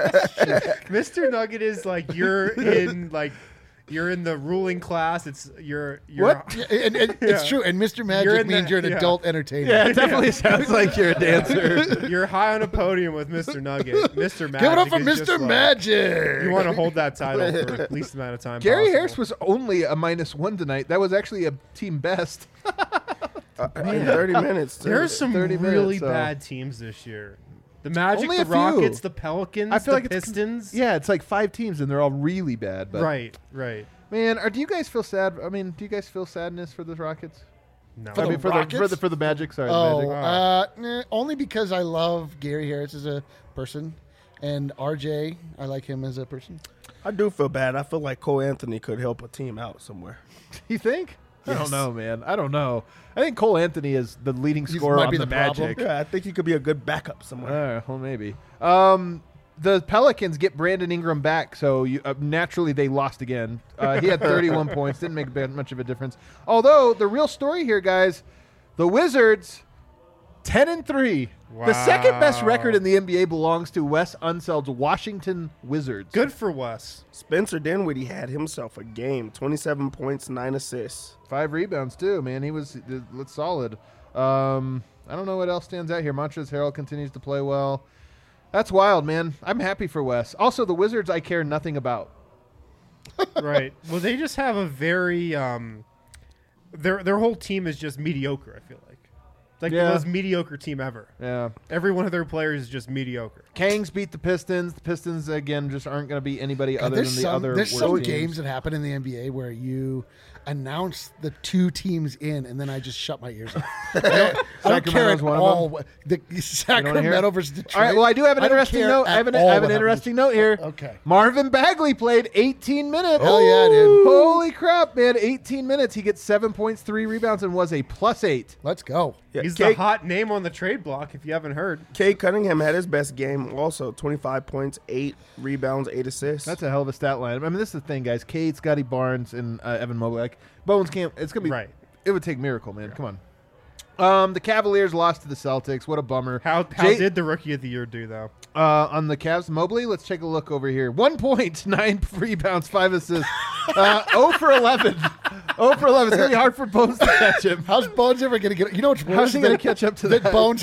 Mr. Nugget is like you're in the ruling class. It's you're What? Yeah, and it's true. And Mr. You're Magic in means the- you're an yeah. adult entertainer. Yeah, it definitely sounds like you're a dancer. you're high on a podium with Mr. Nugget. Mr. Magic. Give it up for is just Mr. like, Magic. You want to hold that title for the least amount of time. Gary possible. Harris was only a -1 tonight. That was actually a team best. In 30 minutes. too. There's some 30 really minutes, so- bad teams this year. The Magic, Only the a few. Rockets, the Pelicans, I feel the like it's Pistons. Yeah, it's like 5 teams, and they're all really bad. But Right. man, do you guys feel sad? I mean, do you guys feel sadness for the Rockets? No. For I the mean, for Rockets? the Magic. Sorry, the Oh, Magic. only because I love Gary Harris as a person, and RJ, I like him as a person. I do feel bad. I feel like Cole Anthony could help a team out somewhere. You think? I Yes. don't know, man. I don't know. I think Cole Anthony is the leading He scorer might on be the the problem. Magic. Yeah, I think he could be a good backup somewhere. Well, maybe. The Pelicans get Brandon Ingram back, so naturally they lost again. He had 31 points, didn't make much of a difference. Although the real story here, guys, the Wizards, 10-3. The second best Wow. record in the NBA belongs to Wes Unseld's Washington Wizards. Good for Wes. Spencer Dinwiddie had himself a game. 27 points, 9 assists. 5 rebounds too, man. He was solid. I don't know what else stands out here. Montrezl Harrell continues to play well. That's wild, man. I'm happy for Wes. Also, the Wizards I care nothing about. Right. Well, they just have a very their whole team is just mediocre. I feel like it's like Yeah. the most mediocre team ever. Yeah. Every one of their players is just mediocre. Kangs beat the Pistons. The Pistons again just aren't going to beat anybody other than the other. There's worst some teams. games that happen in the NBA where you announce the 2 teams in, and then I just shut my ears off. I don't care Sacramento's at one of all. The Sacramento versus Detroit. All right. Well, I do have an I don't interesting care note. I at have an all what happens. interesting note here. Okay. Marvin Bagley played 18 minutes. Hell yeah, dude. Holy crap, man! 18 minutes. He gets 7 points, 3 rebounds, and was a +8. Let's go. Yeah, He's the hot name on the trade block. If you haven't heard, Kate Cunningham had his best game also. 25 points, 8 rebounds, 8 assists. That's a hell of a stat line. I mean, this is the thing, guys. Cade, Scotty Barnes, and Evan Mobley. Like, Bones can't. It's gonna be Right. It would take miracle, man. Come on. The Cavaliers lost to the Celtics. What a bummer. how Jay- did the Rookie of the Year do though? On the Cavs, Mobley, let's take a look over here. 1 point, 9 rebounds, 5 assists. 0 for 11. 0 for 11. It's going to be hard for Bones to catch him. How's Bones ever going to get? You know what's worse? How's he is gonna that- catch up to that? that? Bones had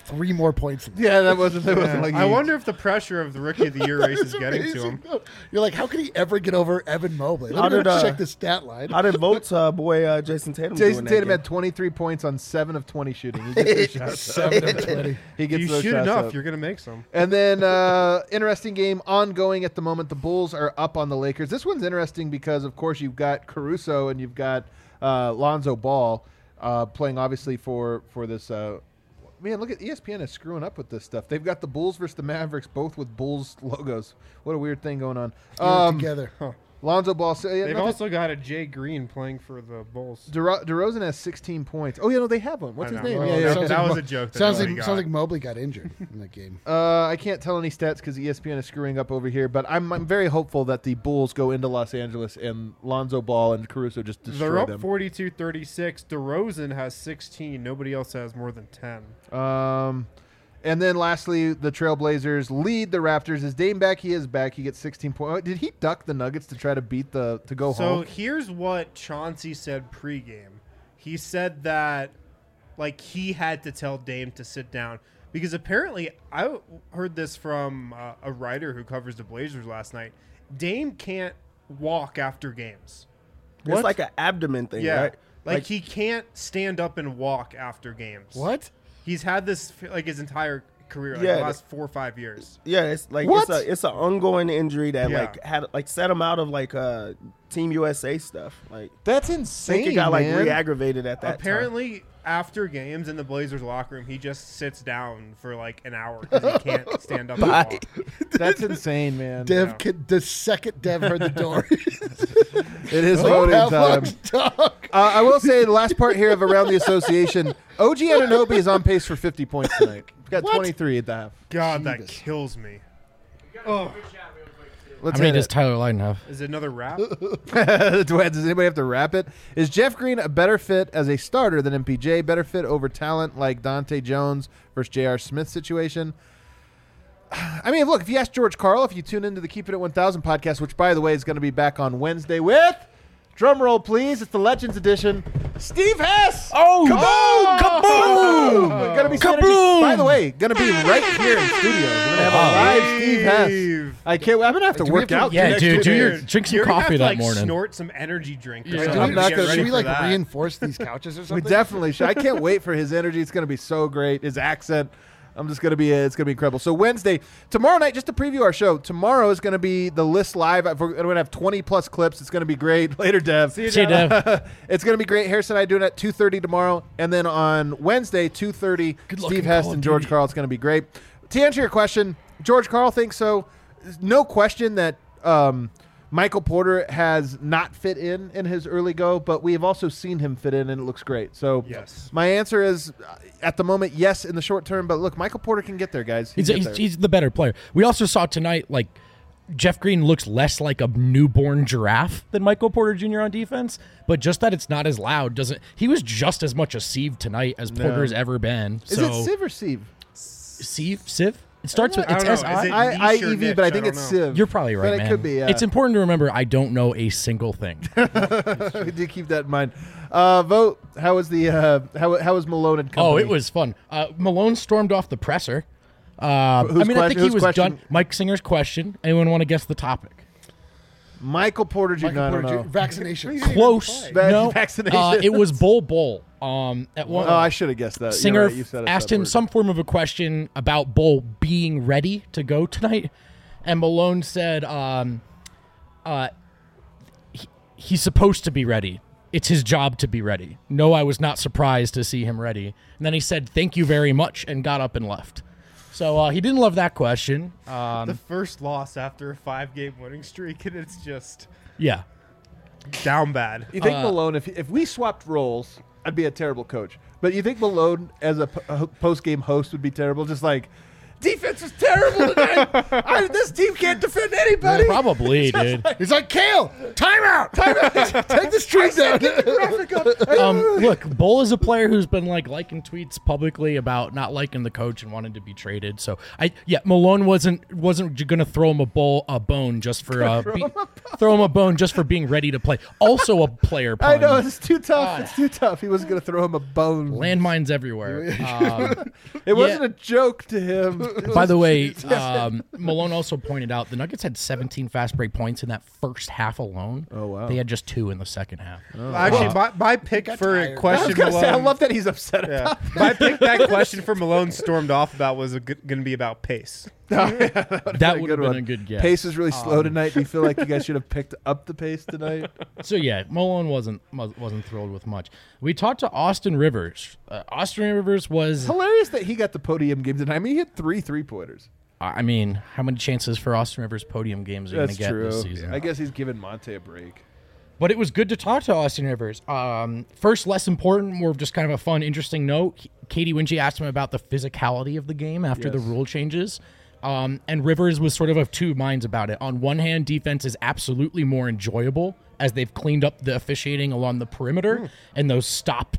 3 more points. Yeah, that wasn't like I wonder if the pressure of the Rookie of the Year race is getting to him. You're like, how could he ever get over Evan Mobley? How Let me did, go check the stat line. How did votes boy Jason Tatum? Jason do in that Tatum game? had 23 points on 7 of 20 shooting. He gets those shots 7 up. of 20. He gets You those shoot shots enough, up. you're gonna make some. And then interesting game ongoing at the moment. The Bulls are up on the Lakers. This one's interesting because, of course, you've got Caruso and you've got Lonzo Ball playing, obviously, for this. Man, look at ESPN is screwing up with this stuff. They've got the Bulls versus the Mavericks, both with Bulls logos. What a weird thing going on. Together. Lonzo Ball. So, yeah, They've also got a Jay Green playing for the Bulls. DeRozan has 16 points. Oh, yeah, no, they have one. What's I his know. name? Oh, Yeah, yeah, that okay. was a joke. that Sounds nobody like got. sounds like Mobley got injured in that game. I can't tell any stats because ESPN is screwing up over here, but I'm very hopeful that the Bulls go into Los Angeles and Lonzo Ball and Caruso just destroy They're up them. 42-36. DeRozan has 16. Nobody else has more than 10. And then lastly, the Trailblazers lead the Raptors. Is Dame back? He is back. He gets 16 points. Did he duck the Nuggets to try to beat to go So home? here's what Chauncey said pregame. He said that like he had to tell Dame to sit down because apparently I heard this from a writer who covers the Blazers last night. Dame can't walk after games. It's like an abdomen thing, Yeah. right? Like he can't stand up and walk after games. What? He's had this like his entire career, like Yeah. the last 4 or 5 years. Yeah, it's like What? it's an ongoing injury that Yeah. like had like set him out of like Team USA stuff. Like That's I insane, think it got like man. re-aggravated at that time. Apparently, after games in the Blazers locker room, he just sits down for like an hour because he can't stand up and Bye. walk. That's insane, man. Dev, the second Dev heard the door. It is voting Have time. lunch, dog. I will say the last part here of Around the Association, OG Anunoby is on pace for 50 points tonight. He's got 23 at the half. God, that Jesus. kills me. Oh, Let's How many hit does it. Tyler Lydon have? is it another rap? Does anybody have to wrap it? Is Jeff Green a better fit as a starter than MPJ? Better fit over talent like Dante Jones versus J.R. Smith situation? I mean, look, if you ask George Karl, if you tune into the Keep It at 1000 podcast, which, by the way, is going to be back on Wednesday with, drum roll, please, it's the Legends edition, Steve Hess! Oh, Kaboom! Gonna be Kaboom! By the way, going to be right here in studios. We're going to have a live Steve Hess. Steve. I can't. I'm going to have to Do we work have to- out. Yeah, next dude, do week. your drink some You're gonna coffee have to, that like, morning. Snort some energy drink. or Yeah. something I'm to not get gonna- ready Should we for like that. reinforce these couches or We something? definitely should. I can't wait for his energy. It's going to be so great. His accent. I'm just going to be, it's going to be incredible. So Wednesday, tomorrow night, just to preview our show, tomorrow is going to be the list live. We're going to have 20 plus clips. It's going to be great. Later, Dev. See you, See you, Dev. It's going to be great. Harrison and I doing it at 2:30 tomorrow. And then on Wednesday, 2:30, Good luck Steve in Hess Call of and George Duty. Karl. It's going to be great. To answer your question, George Karl thinks so. There's no question that Michael Porter has not fit in his early go, but we have also seen him fit in, and it looks great. So Yes. my answer is, at the moment, yes, in the short term. But look, Michael Porter can get there, guys. He He's, can he's, get there. he's the better player. We also saw tonight, like, Jeff Green looks less like a newborn giraffe than Michael Porter Jr. on defense, but just that it's not as loud doesn't. He was just as much a sieve tonight as Porter's ever been. Is So it Civ or Sieve? Civ? It starts with I it's don't know. Is SI. it I niche or EV, niche? but I I think don't it's know. Civ. You're probably right, but man. it could be. Yeah. It's important to remember I don't know a single thing. We do keep that in mind. Vote. How was the how was Malone and company? Oh, it was fun. Malone stormed off the presser. I Whose mean, I think he whose was question? done. Mike Singer's question. Anyone want to guess the topic? Michael Porter Jr. I don't know. Vaccinations. Close. Vac- No. vaccinations. It was Bull. At one, Oh, I should have guessed that. Singer You're right, you set us asked up him for it. some form of a question about Bull being ready to go tonight, and Malone said, he's supposed to be ready. It's his job to be ready. No, I was not surprised to see him ready. And then he said, "Thank you very much," and got up and left. So he didn't love that question. The first loss after a 5-game winning streak, and it's just Yeah. down bad. You think Malone, if we swapped roles, I'd be a terrible coach. But you think Malone as a post game host would be terrible? Just like, defense is terrible tonight. This team can't defend anybody. Probably, dude. He's like, Kale, timeout. Take the streak down. Look, Bull is a player who's been like liking tweets publicly about not liking the coach and wanting to be traded. So Malone wasn't gonna throw him a bone just for throw him a bone just for being ready to play. Also a player pun. I know, it's too tough. It's too tough. He wasn't going to throw him a bone. Landmines everywhere. It wasn't a joke to him. By the way, Malone also pointed out the Nuggets had 17 fast break points in that first half alone. Oh, wow. They had just 2 in the second half. Actually, my pick for a tired. question I Malone. love that he's upset about Yeah. My pick that question for Malone stormed off about was going to be about pace. That would have been a good guess. Pace is really slow tonight. Do you feel like you guys should have picked up the pace tonight? So yeah, Malone wasn't thrilled with much. We talked to Austin Rivers. Austin Rivers was. Hilarious that he got the podium game tonight. I mean, he hit 3 3-pointers. I mean, how many chances for Austin Rivers podium games are you going to That's get true. this season? I guess he's giving Monte a break. But it was good to talk to Austin Rivers. First, less important, more of just kind of a fun, interesting note. Katie Winchie asked him about the physicality of the game after the rule changes. And Rivers was sort of two minds about it. On one hand, defense is absolutely more enjoyable as they've cleaned up the officiating along the perimeter and those stop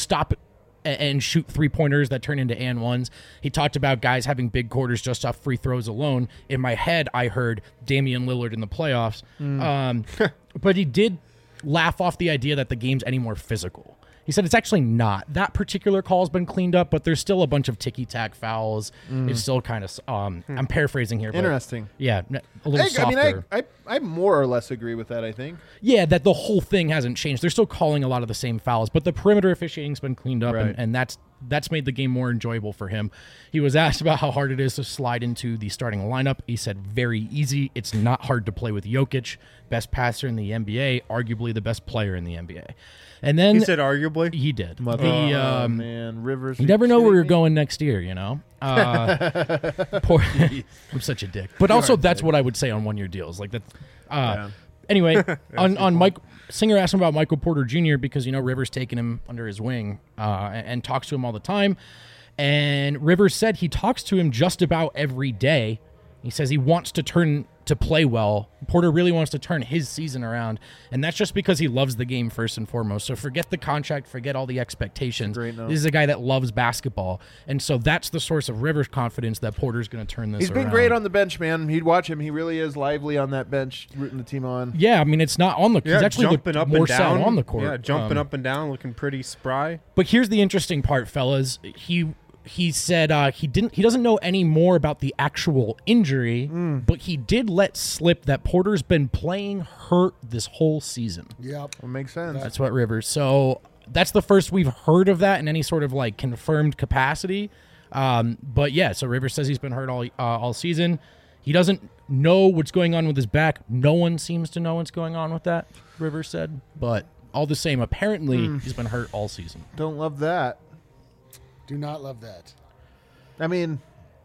and shoot 3-pointers that turn into and ones. He talked about guys having big quarters just off free throws alone. In my head, I heard Damian Lillard in the playoffs. But he did laugh off the idea that the game's any more physical. He said it's actually not. That particular call's been cleaned up, but there's still a bunch of ticky-tack fouls. It's still kind of, I'm paraphrasing here. But Interesting. yeah, a little softer. I more or less agree with that, I think. Yeah, that the whole thing hasn't changed. They're still calling a lot of the same fouls, but the perimeter officiating's been cleaned up, Right. and that's made the game more enjoyable for him. He was asked about how hard it is to slide into the starting lineup. He said, very easy. It's not hard to play with Jokic, best passer in the NBA, arguably the best player in the NBA. And then He said arguably. he did. Oh, man. Rivers. You never know where you're going next year, you know? Poor, I'm such a dick. But also, that's what I would say on one-year deals. Like that. Anyway, on Mike, Singer asked him about Michael Porter Jr. because, Rivers taking him under his wing and talks to him all the time. And Rivers said he talks to him just about every day. He says he wants to play well. Porter really wants to turn his season around, and that's just because he loves the game first and foremost. So forget the contract, forget all the expectations. Great note. This is a guy that loves basketball, and so that's the source of Rivers' confidence that Porter's going to turn this He's around. been great on the bench, man. He'd watch him. He really is lively on that bench, rooting the team on. Yeah, I mean, it's not on the Yeah, he's actually jumping looked up more and down sound on the court. Yeah, jumping up and down, looking pretty spry. But here's the interesting part, fellas. He said he doesn't know any more about the actual injury, but he did let slip that Porter's been playing hurt this whole season. Yep. It makes sense. That's what Rivers. So that's the first we've heard of that in any sort of like confirmed capacity. But yeah, so Rivers says he's been hurt all season. He doesn't know what's going on with his back. No one seems to know what's going on with that, Rivers said. But all the same, apparently he's been hurt all season. Don't love that. Do not love that. I mean,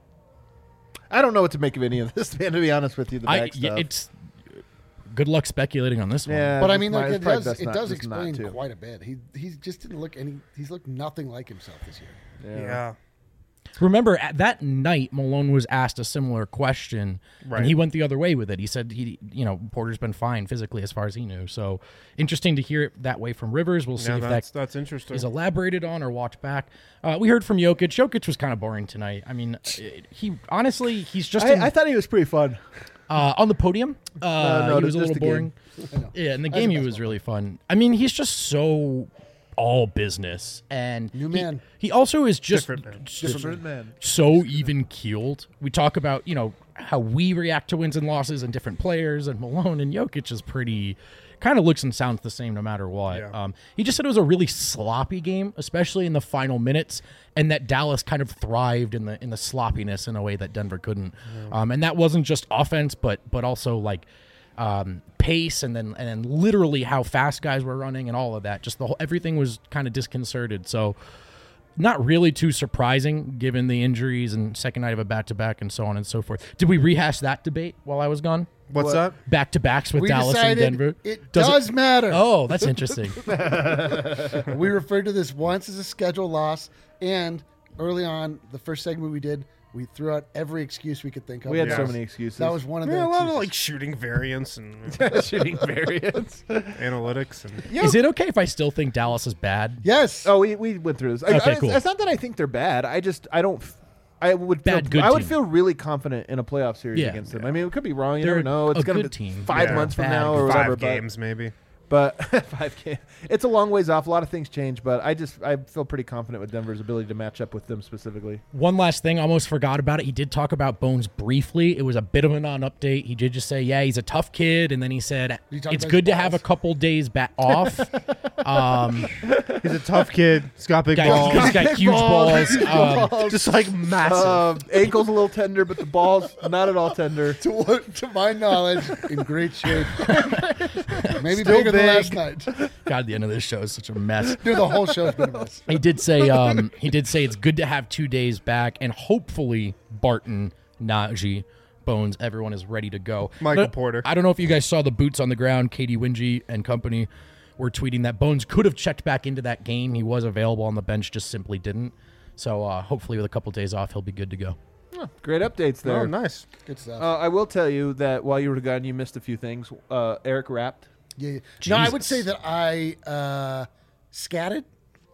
I don't know what to make of any of this, man, to be honest with you. The back stuff. It's good luck speculating on this one. Yeah. But I it's mean, not- like, it's probably best it not- does just not explain to. quite a bit. He just didn't look he's looked nothing like himself this year. Yeah. Remember, at that night, Malone was asked a similar question, Right. and he went the other way with it. He said Porter's been fine physically as far as he knew. So interesting to hear it that way from Rivers. We'll see Yeah, if that's interesting. is elaborated on or watched back. We heard from Jokic. Jokic was kind of boring tonight. I mean, he's just I thought he was pretty fun. on the podium. No, he was a just little the boring. game. Yeah, in the game he was really fun. I mean, he's just so all business, and New man. He also is just Different man. so even keeled. We talk about how we react to wins and losses and different players, and Malone and Jokic is pretty. Kind of looks and sounds the same no matter what. Yeah. He just said it was a really sloppy game, especially in the final minutes, and that Dallas kind of thrived in the sloppiness in a way that Denver couldn't. And that wasn't just offense, but also like pace, and then literally how fast guys were running and all of that. Just everything was kind of disconcerted. So not really too surprising given the injuries and second night of a back-to-back and so on and so forth. Did we rehash that debate while I was gone? What's that? Back-to-backs with We Dallas and decided Denver? it does matter. Oh, that's interesting. We referred to this once as a schedule loss, and early on, the first segment we did, We threw out every excuse we could think of. We had so Yeah. many excuses. That was one of the Yeah, a lot of excuses. like shooting variants and shooting variants. analytics. And Is it okay if I still think Dallas is bad? Yes. Oh, we went through this. Okay, cool. It's not that I think they're bad. I don't. I would feel, Bad, good I would team. feel really confident in a playoff series Yeah. against them. I mean, it could be wrong. You They're never know. It's a going to good be team. 5 Yeah. months from Bad, now or good. whatever. 5 games maybe. But 5 games. It's a long ways off. A lot of things change, but I feel pretty confident with Denver's ability to match up with them specifically. One last thing, almost forgot about it. He did talk about Bones briefly. It was a bit of a non-update. He did just say, yeah, he's a tough kid. And then he said, You talking it's about good his to have a balls? couple days off. He's a tough kid. He's got big He's balls. got huge balls. Just like massive. Ankle's a little tender, but the ball's not at all tender. To my knowledge, in great shape. Maybe Still bigger than big. last night. God, the end of this show is such a mess. Dude, the whole show's been a mess. He did say it's good to have 2 days back, and hopefully Barton, Najee, Bones, everyone is ready to go. Michael But Porter. I don't know if you guys saw the boots on the ground. Katie Wingy and company were tweeting that Bones could have checked back into that game. He was available on the bench, just simply didn't. So hopefully with a couple days off, he'll be good to go. Great updates there. Oh, nice. Good stuff. I will tell you that while you were gone, you missed a few things. Eric rapped. Yeah. No, I would Jesus. say that I scatted.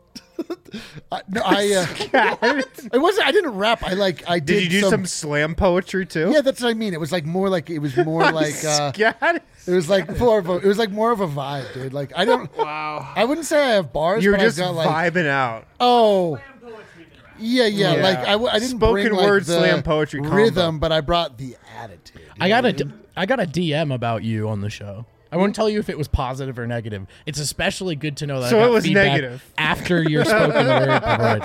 It wasn't. I didn't rap. I did. Did you do some slam poetry too? Yeah, that's what I mean. It was like more like it was more like Scat? it was like more of a, it was like more of a vibe, dude. Like I don't. Wow. I wouldn't say I have bars. You're but just I've got like vibing out. oh. Yeah. Yeah. Like I didn't Spoken bring like word the slam poetry combo. rhythm, but I brought the attitude. I got a DM about you on the show. I won't tell you if it was positive or negative. It's especially good to know that. So I got it was feedback negative. after your spoken word.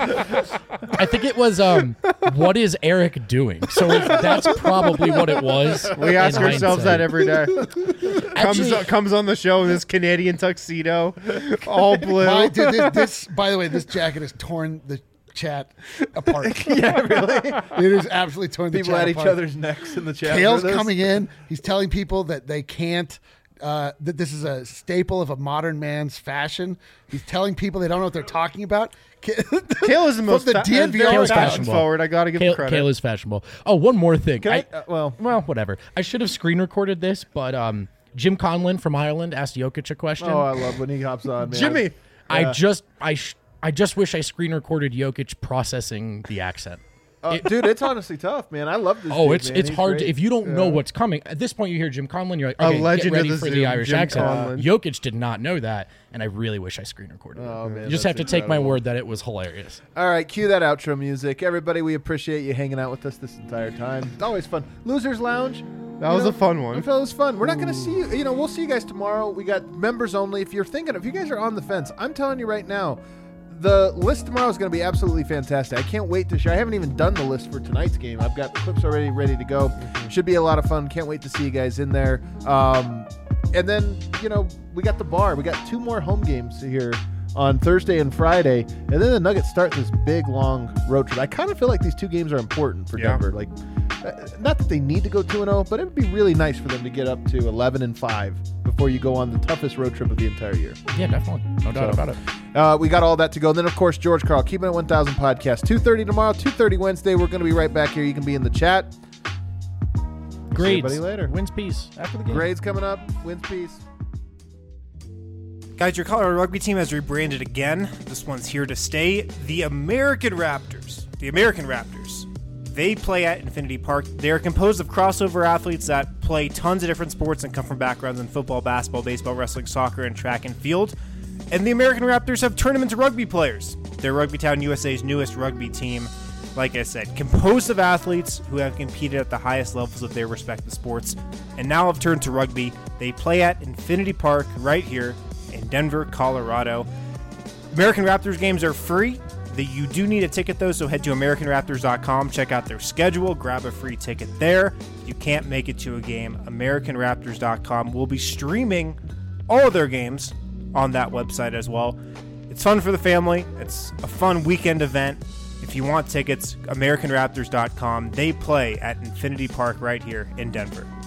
I think it was, what is Eric doing? So that's probably what it was. We ask in ourselves hindsight. that every day. Actually, comes on the show in this Canadian tuxedo, all blue. This, by the way, this jacket has torn the chat apart. Yeah, really. It is absolutely torn the People chat at apart. each other's necks in the chat. Kale's for this. coming in. He's telling people that they can't. That this is a staple of a modern man's fashion. He's telling people they don't know what they're talking about. Kale is the most the DNVR very Kale's fashion fashionable. forward. I got to give him credit. Kale is fashionable. Oh, one more thing. Can well, Whatever. I should have screen recorded this, but Jim Conlon from Ireland asked Jokic a question. oh, I love when he hops on, man. Jimmy. I just wish I screen recorded Jokic processing the accent. Dude, it's honestly tough, man. I love this. Oh, dude, it's man. it's He's hard great. if you don't know what's coming. At this point, you hear Jim Conlon, you're like, A okay, legend get ready of the for Zoom, the Irish Jim accent. Conlon. Jokic did not know that, and I really wish I screen recorded Oh, it. man, You just that's have to take my incredible. word that it was hilarious. All right, cue that outro music. Everybody, we appreciate you hanging out with us this entire time. It's always fun. Losers Lounge. That was a fun one. I felt it was fun. We're not going to see you. You know, we'll see you guys tomorrow. We got members only. If you guys are on the fence, I'm telling you right now, the list tomorrow is going to be absolutely fantastic. I can't wait to share. I haven't even done the list for tonight's game. I've got clips already ready to go. Should be a lot of fun. Can't wait to see you guys in there. And then, you know, we got the bar. We got 2 more home games here on Thursday and Friday. And then the Nuggets start this big, long road trip. I kind of feel like these 2 games are important for Yeah. Denver. Like, not that they need to go 2-0, but it would be really nice for them to get up to 11-5 before you go on the toughest road trip of the entire year. Yeah, definitely. No doubt about it. We got all that to go. And then, of course, George Carl, Keeping It 1000 podcast, 2:30 tomorrow, 2:30 Wednesday. We're going to be right back here. You can be in the chat. Grades. everybody later. Wins peace after the game. Grades coming up. Wins peace. Guys, your Colorado rugby team has rebranded again. This one's here to stay. The American Raptors. They play at Infinity Park. They are composed of crossover athletes that play tons of different sports and come from backgrounds in football, basketball, baseball, wrestling, soccer, and track and field. And the American Raptors have tournament rugby players. They're Rugby Town USA's newest rugby team. Like I said, composed of athletes who have competed at the highest levels of their respective sports and now have turned to rugby. They play at Infinity Park right here in Denver, Colorado. American Raptors games are free. You do need a ticket, though, so head to AmericanRaptors.com, check out their schedule, grab a free ticket there. If you can't make it to a game, AmericanRaptors.com will be streaming all of their games on that website as well. It's fun for the family. It's a fun weekend event. If you want tickets, AmericanRaptors.com. They play at Infinity Park right here in Denver.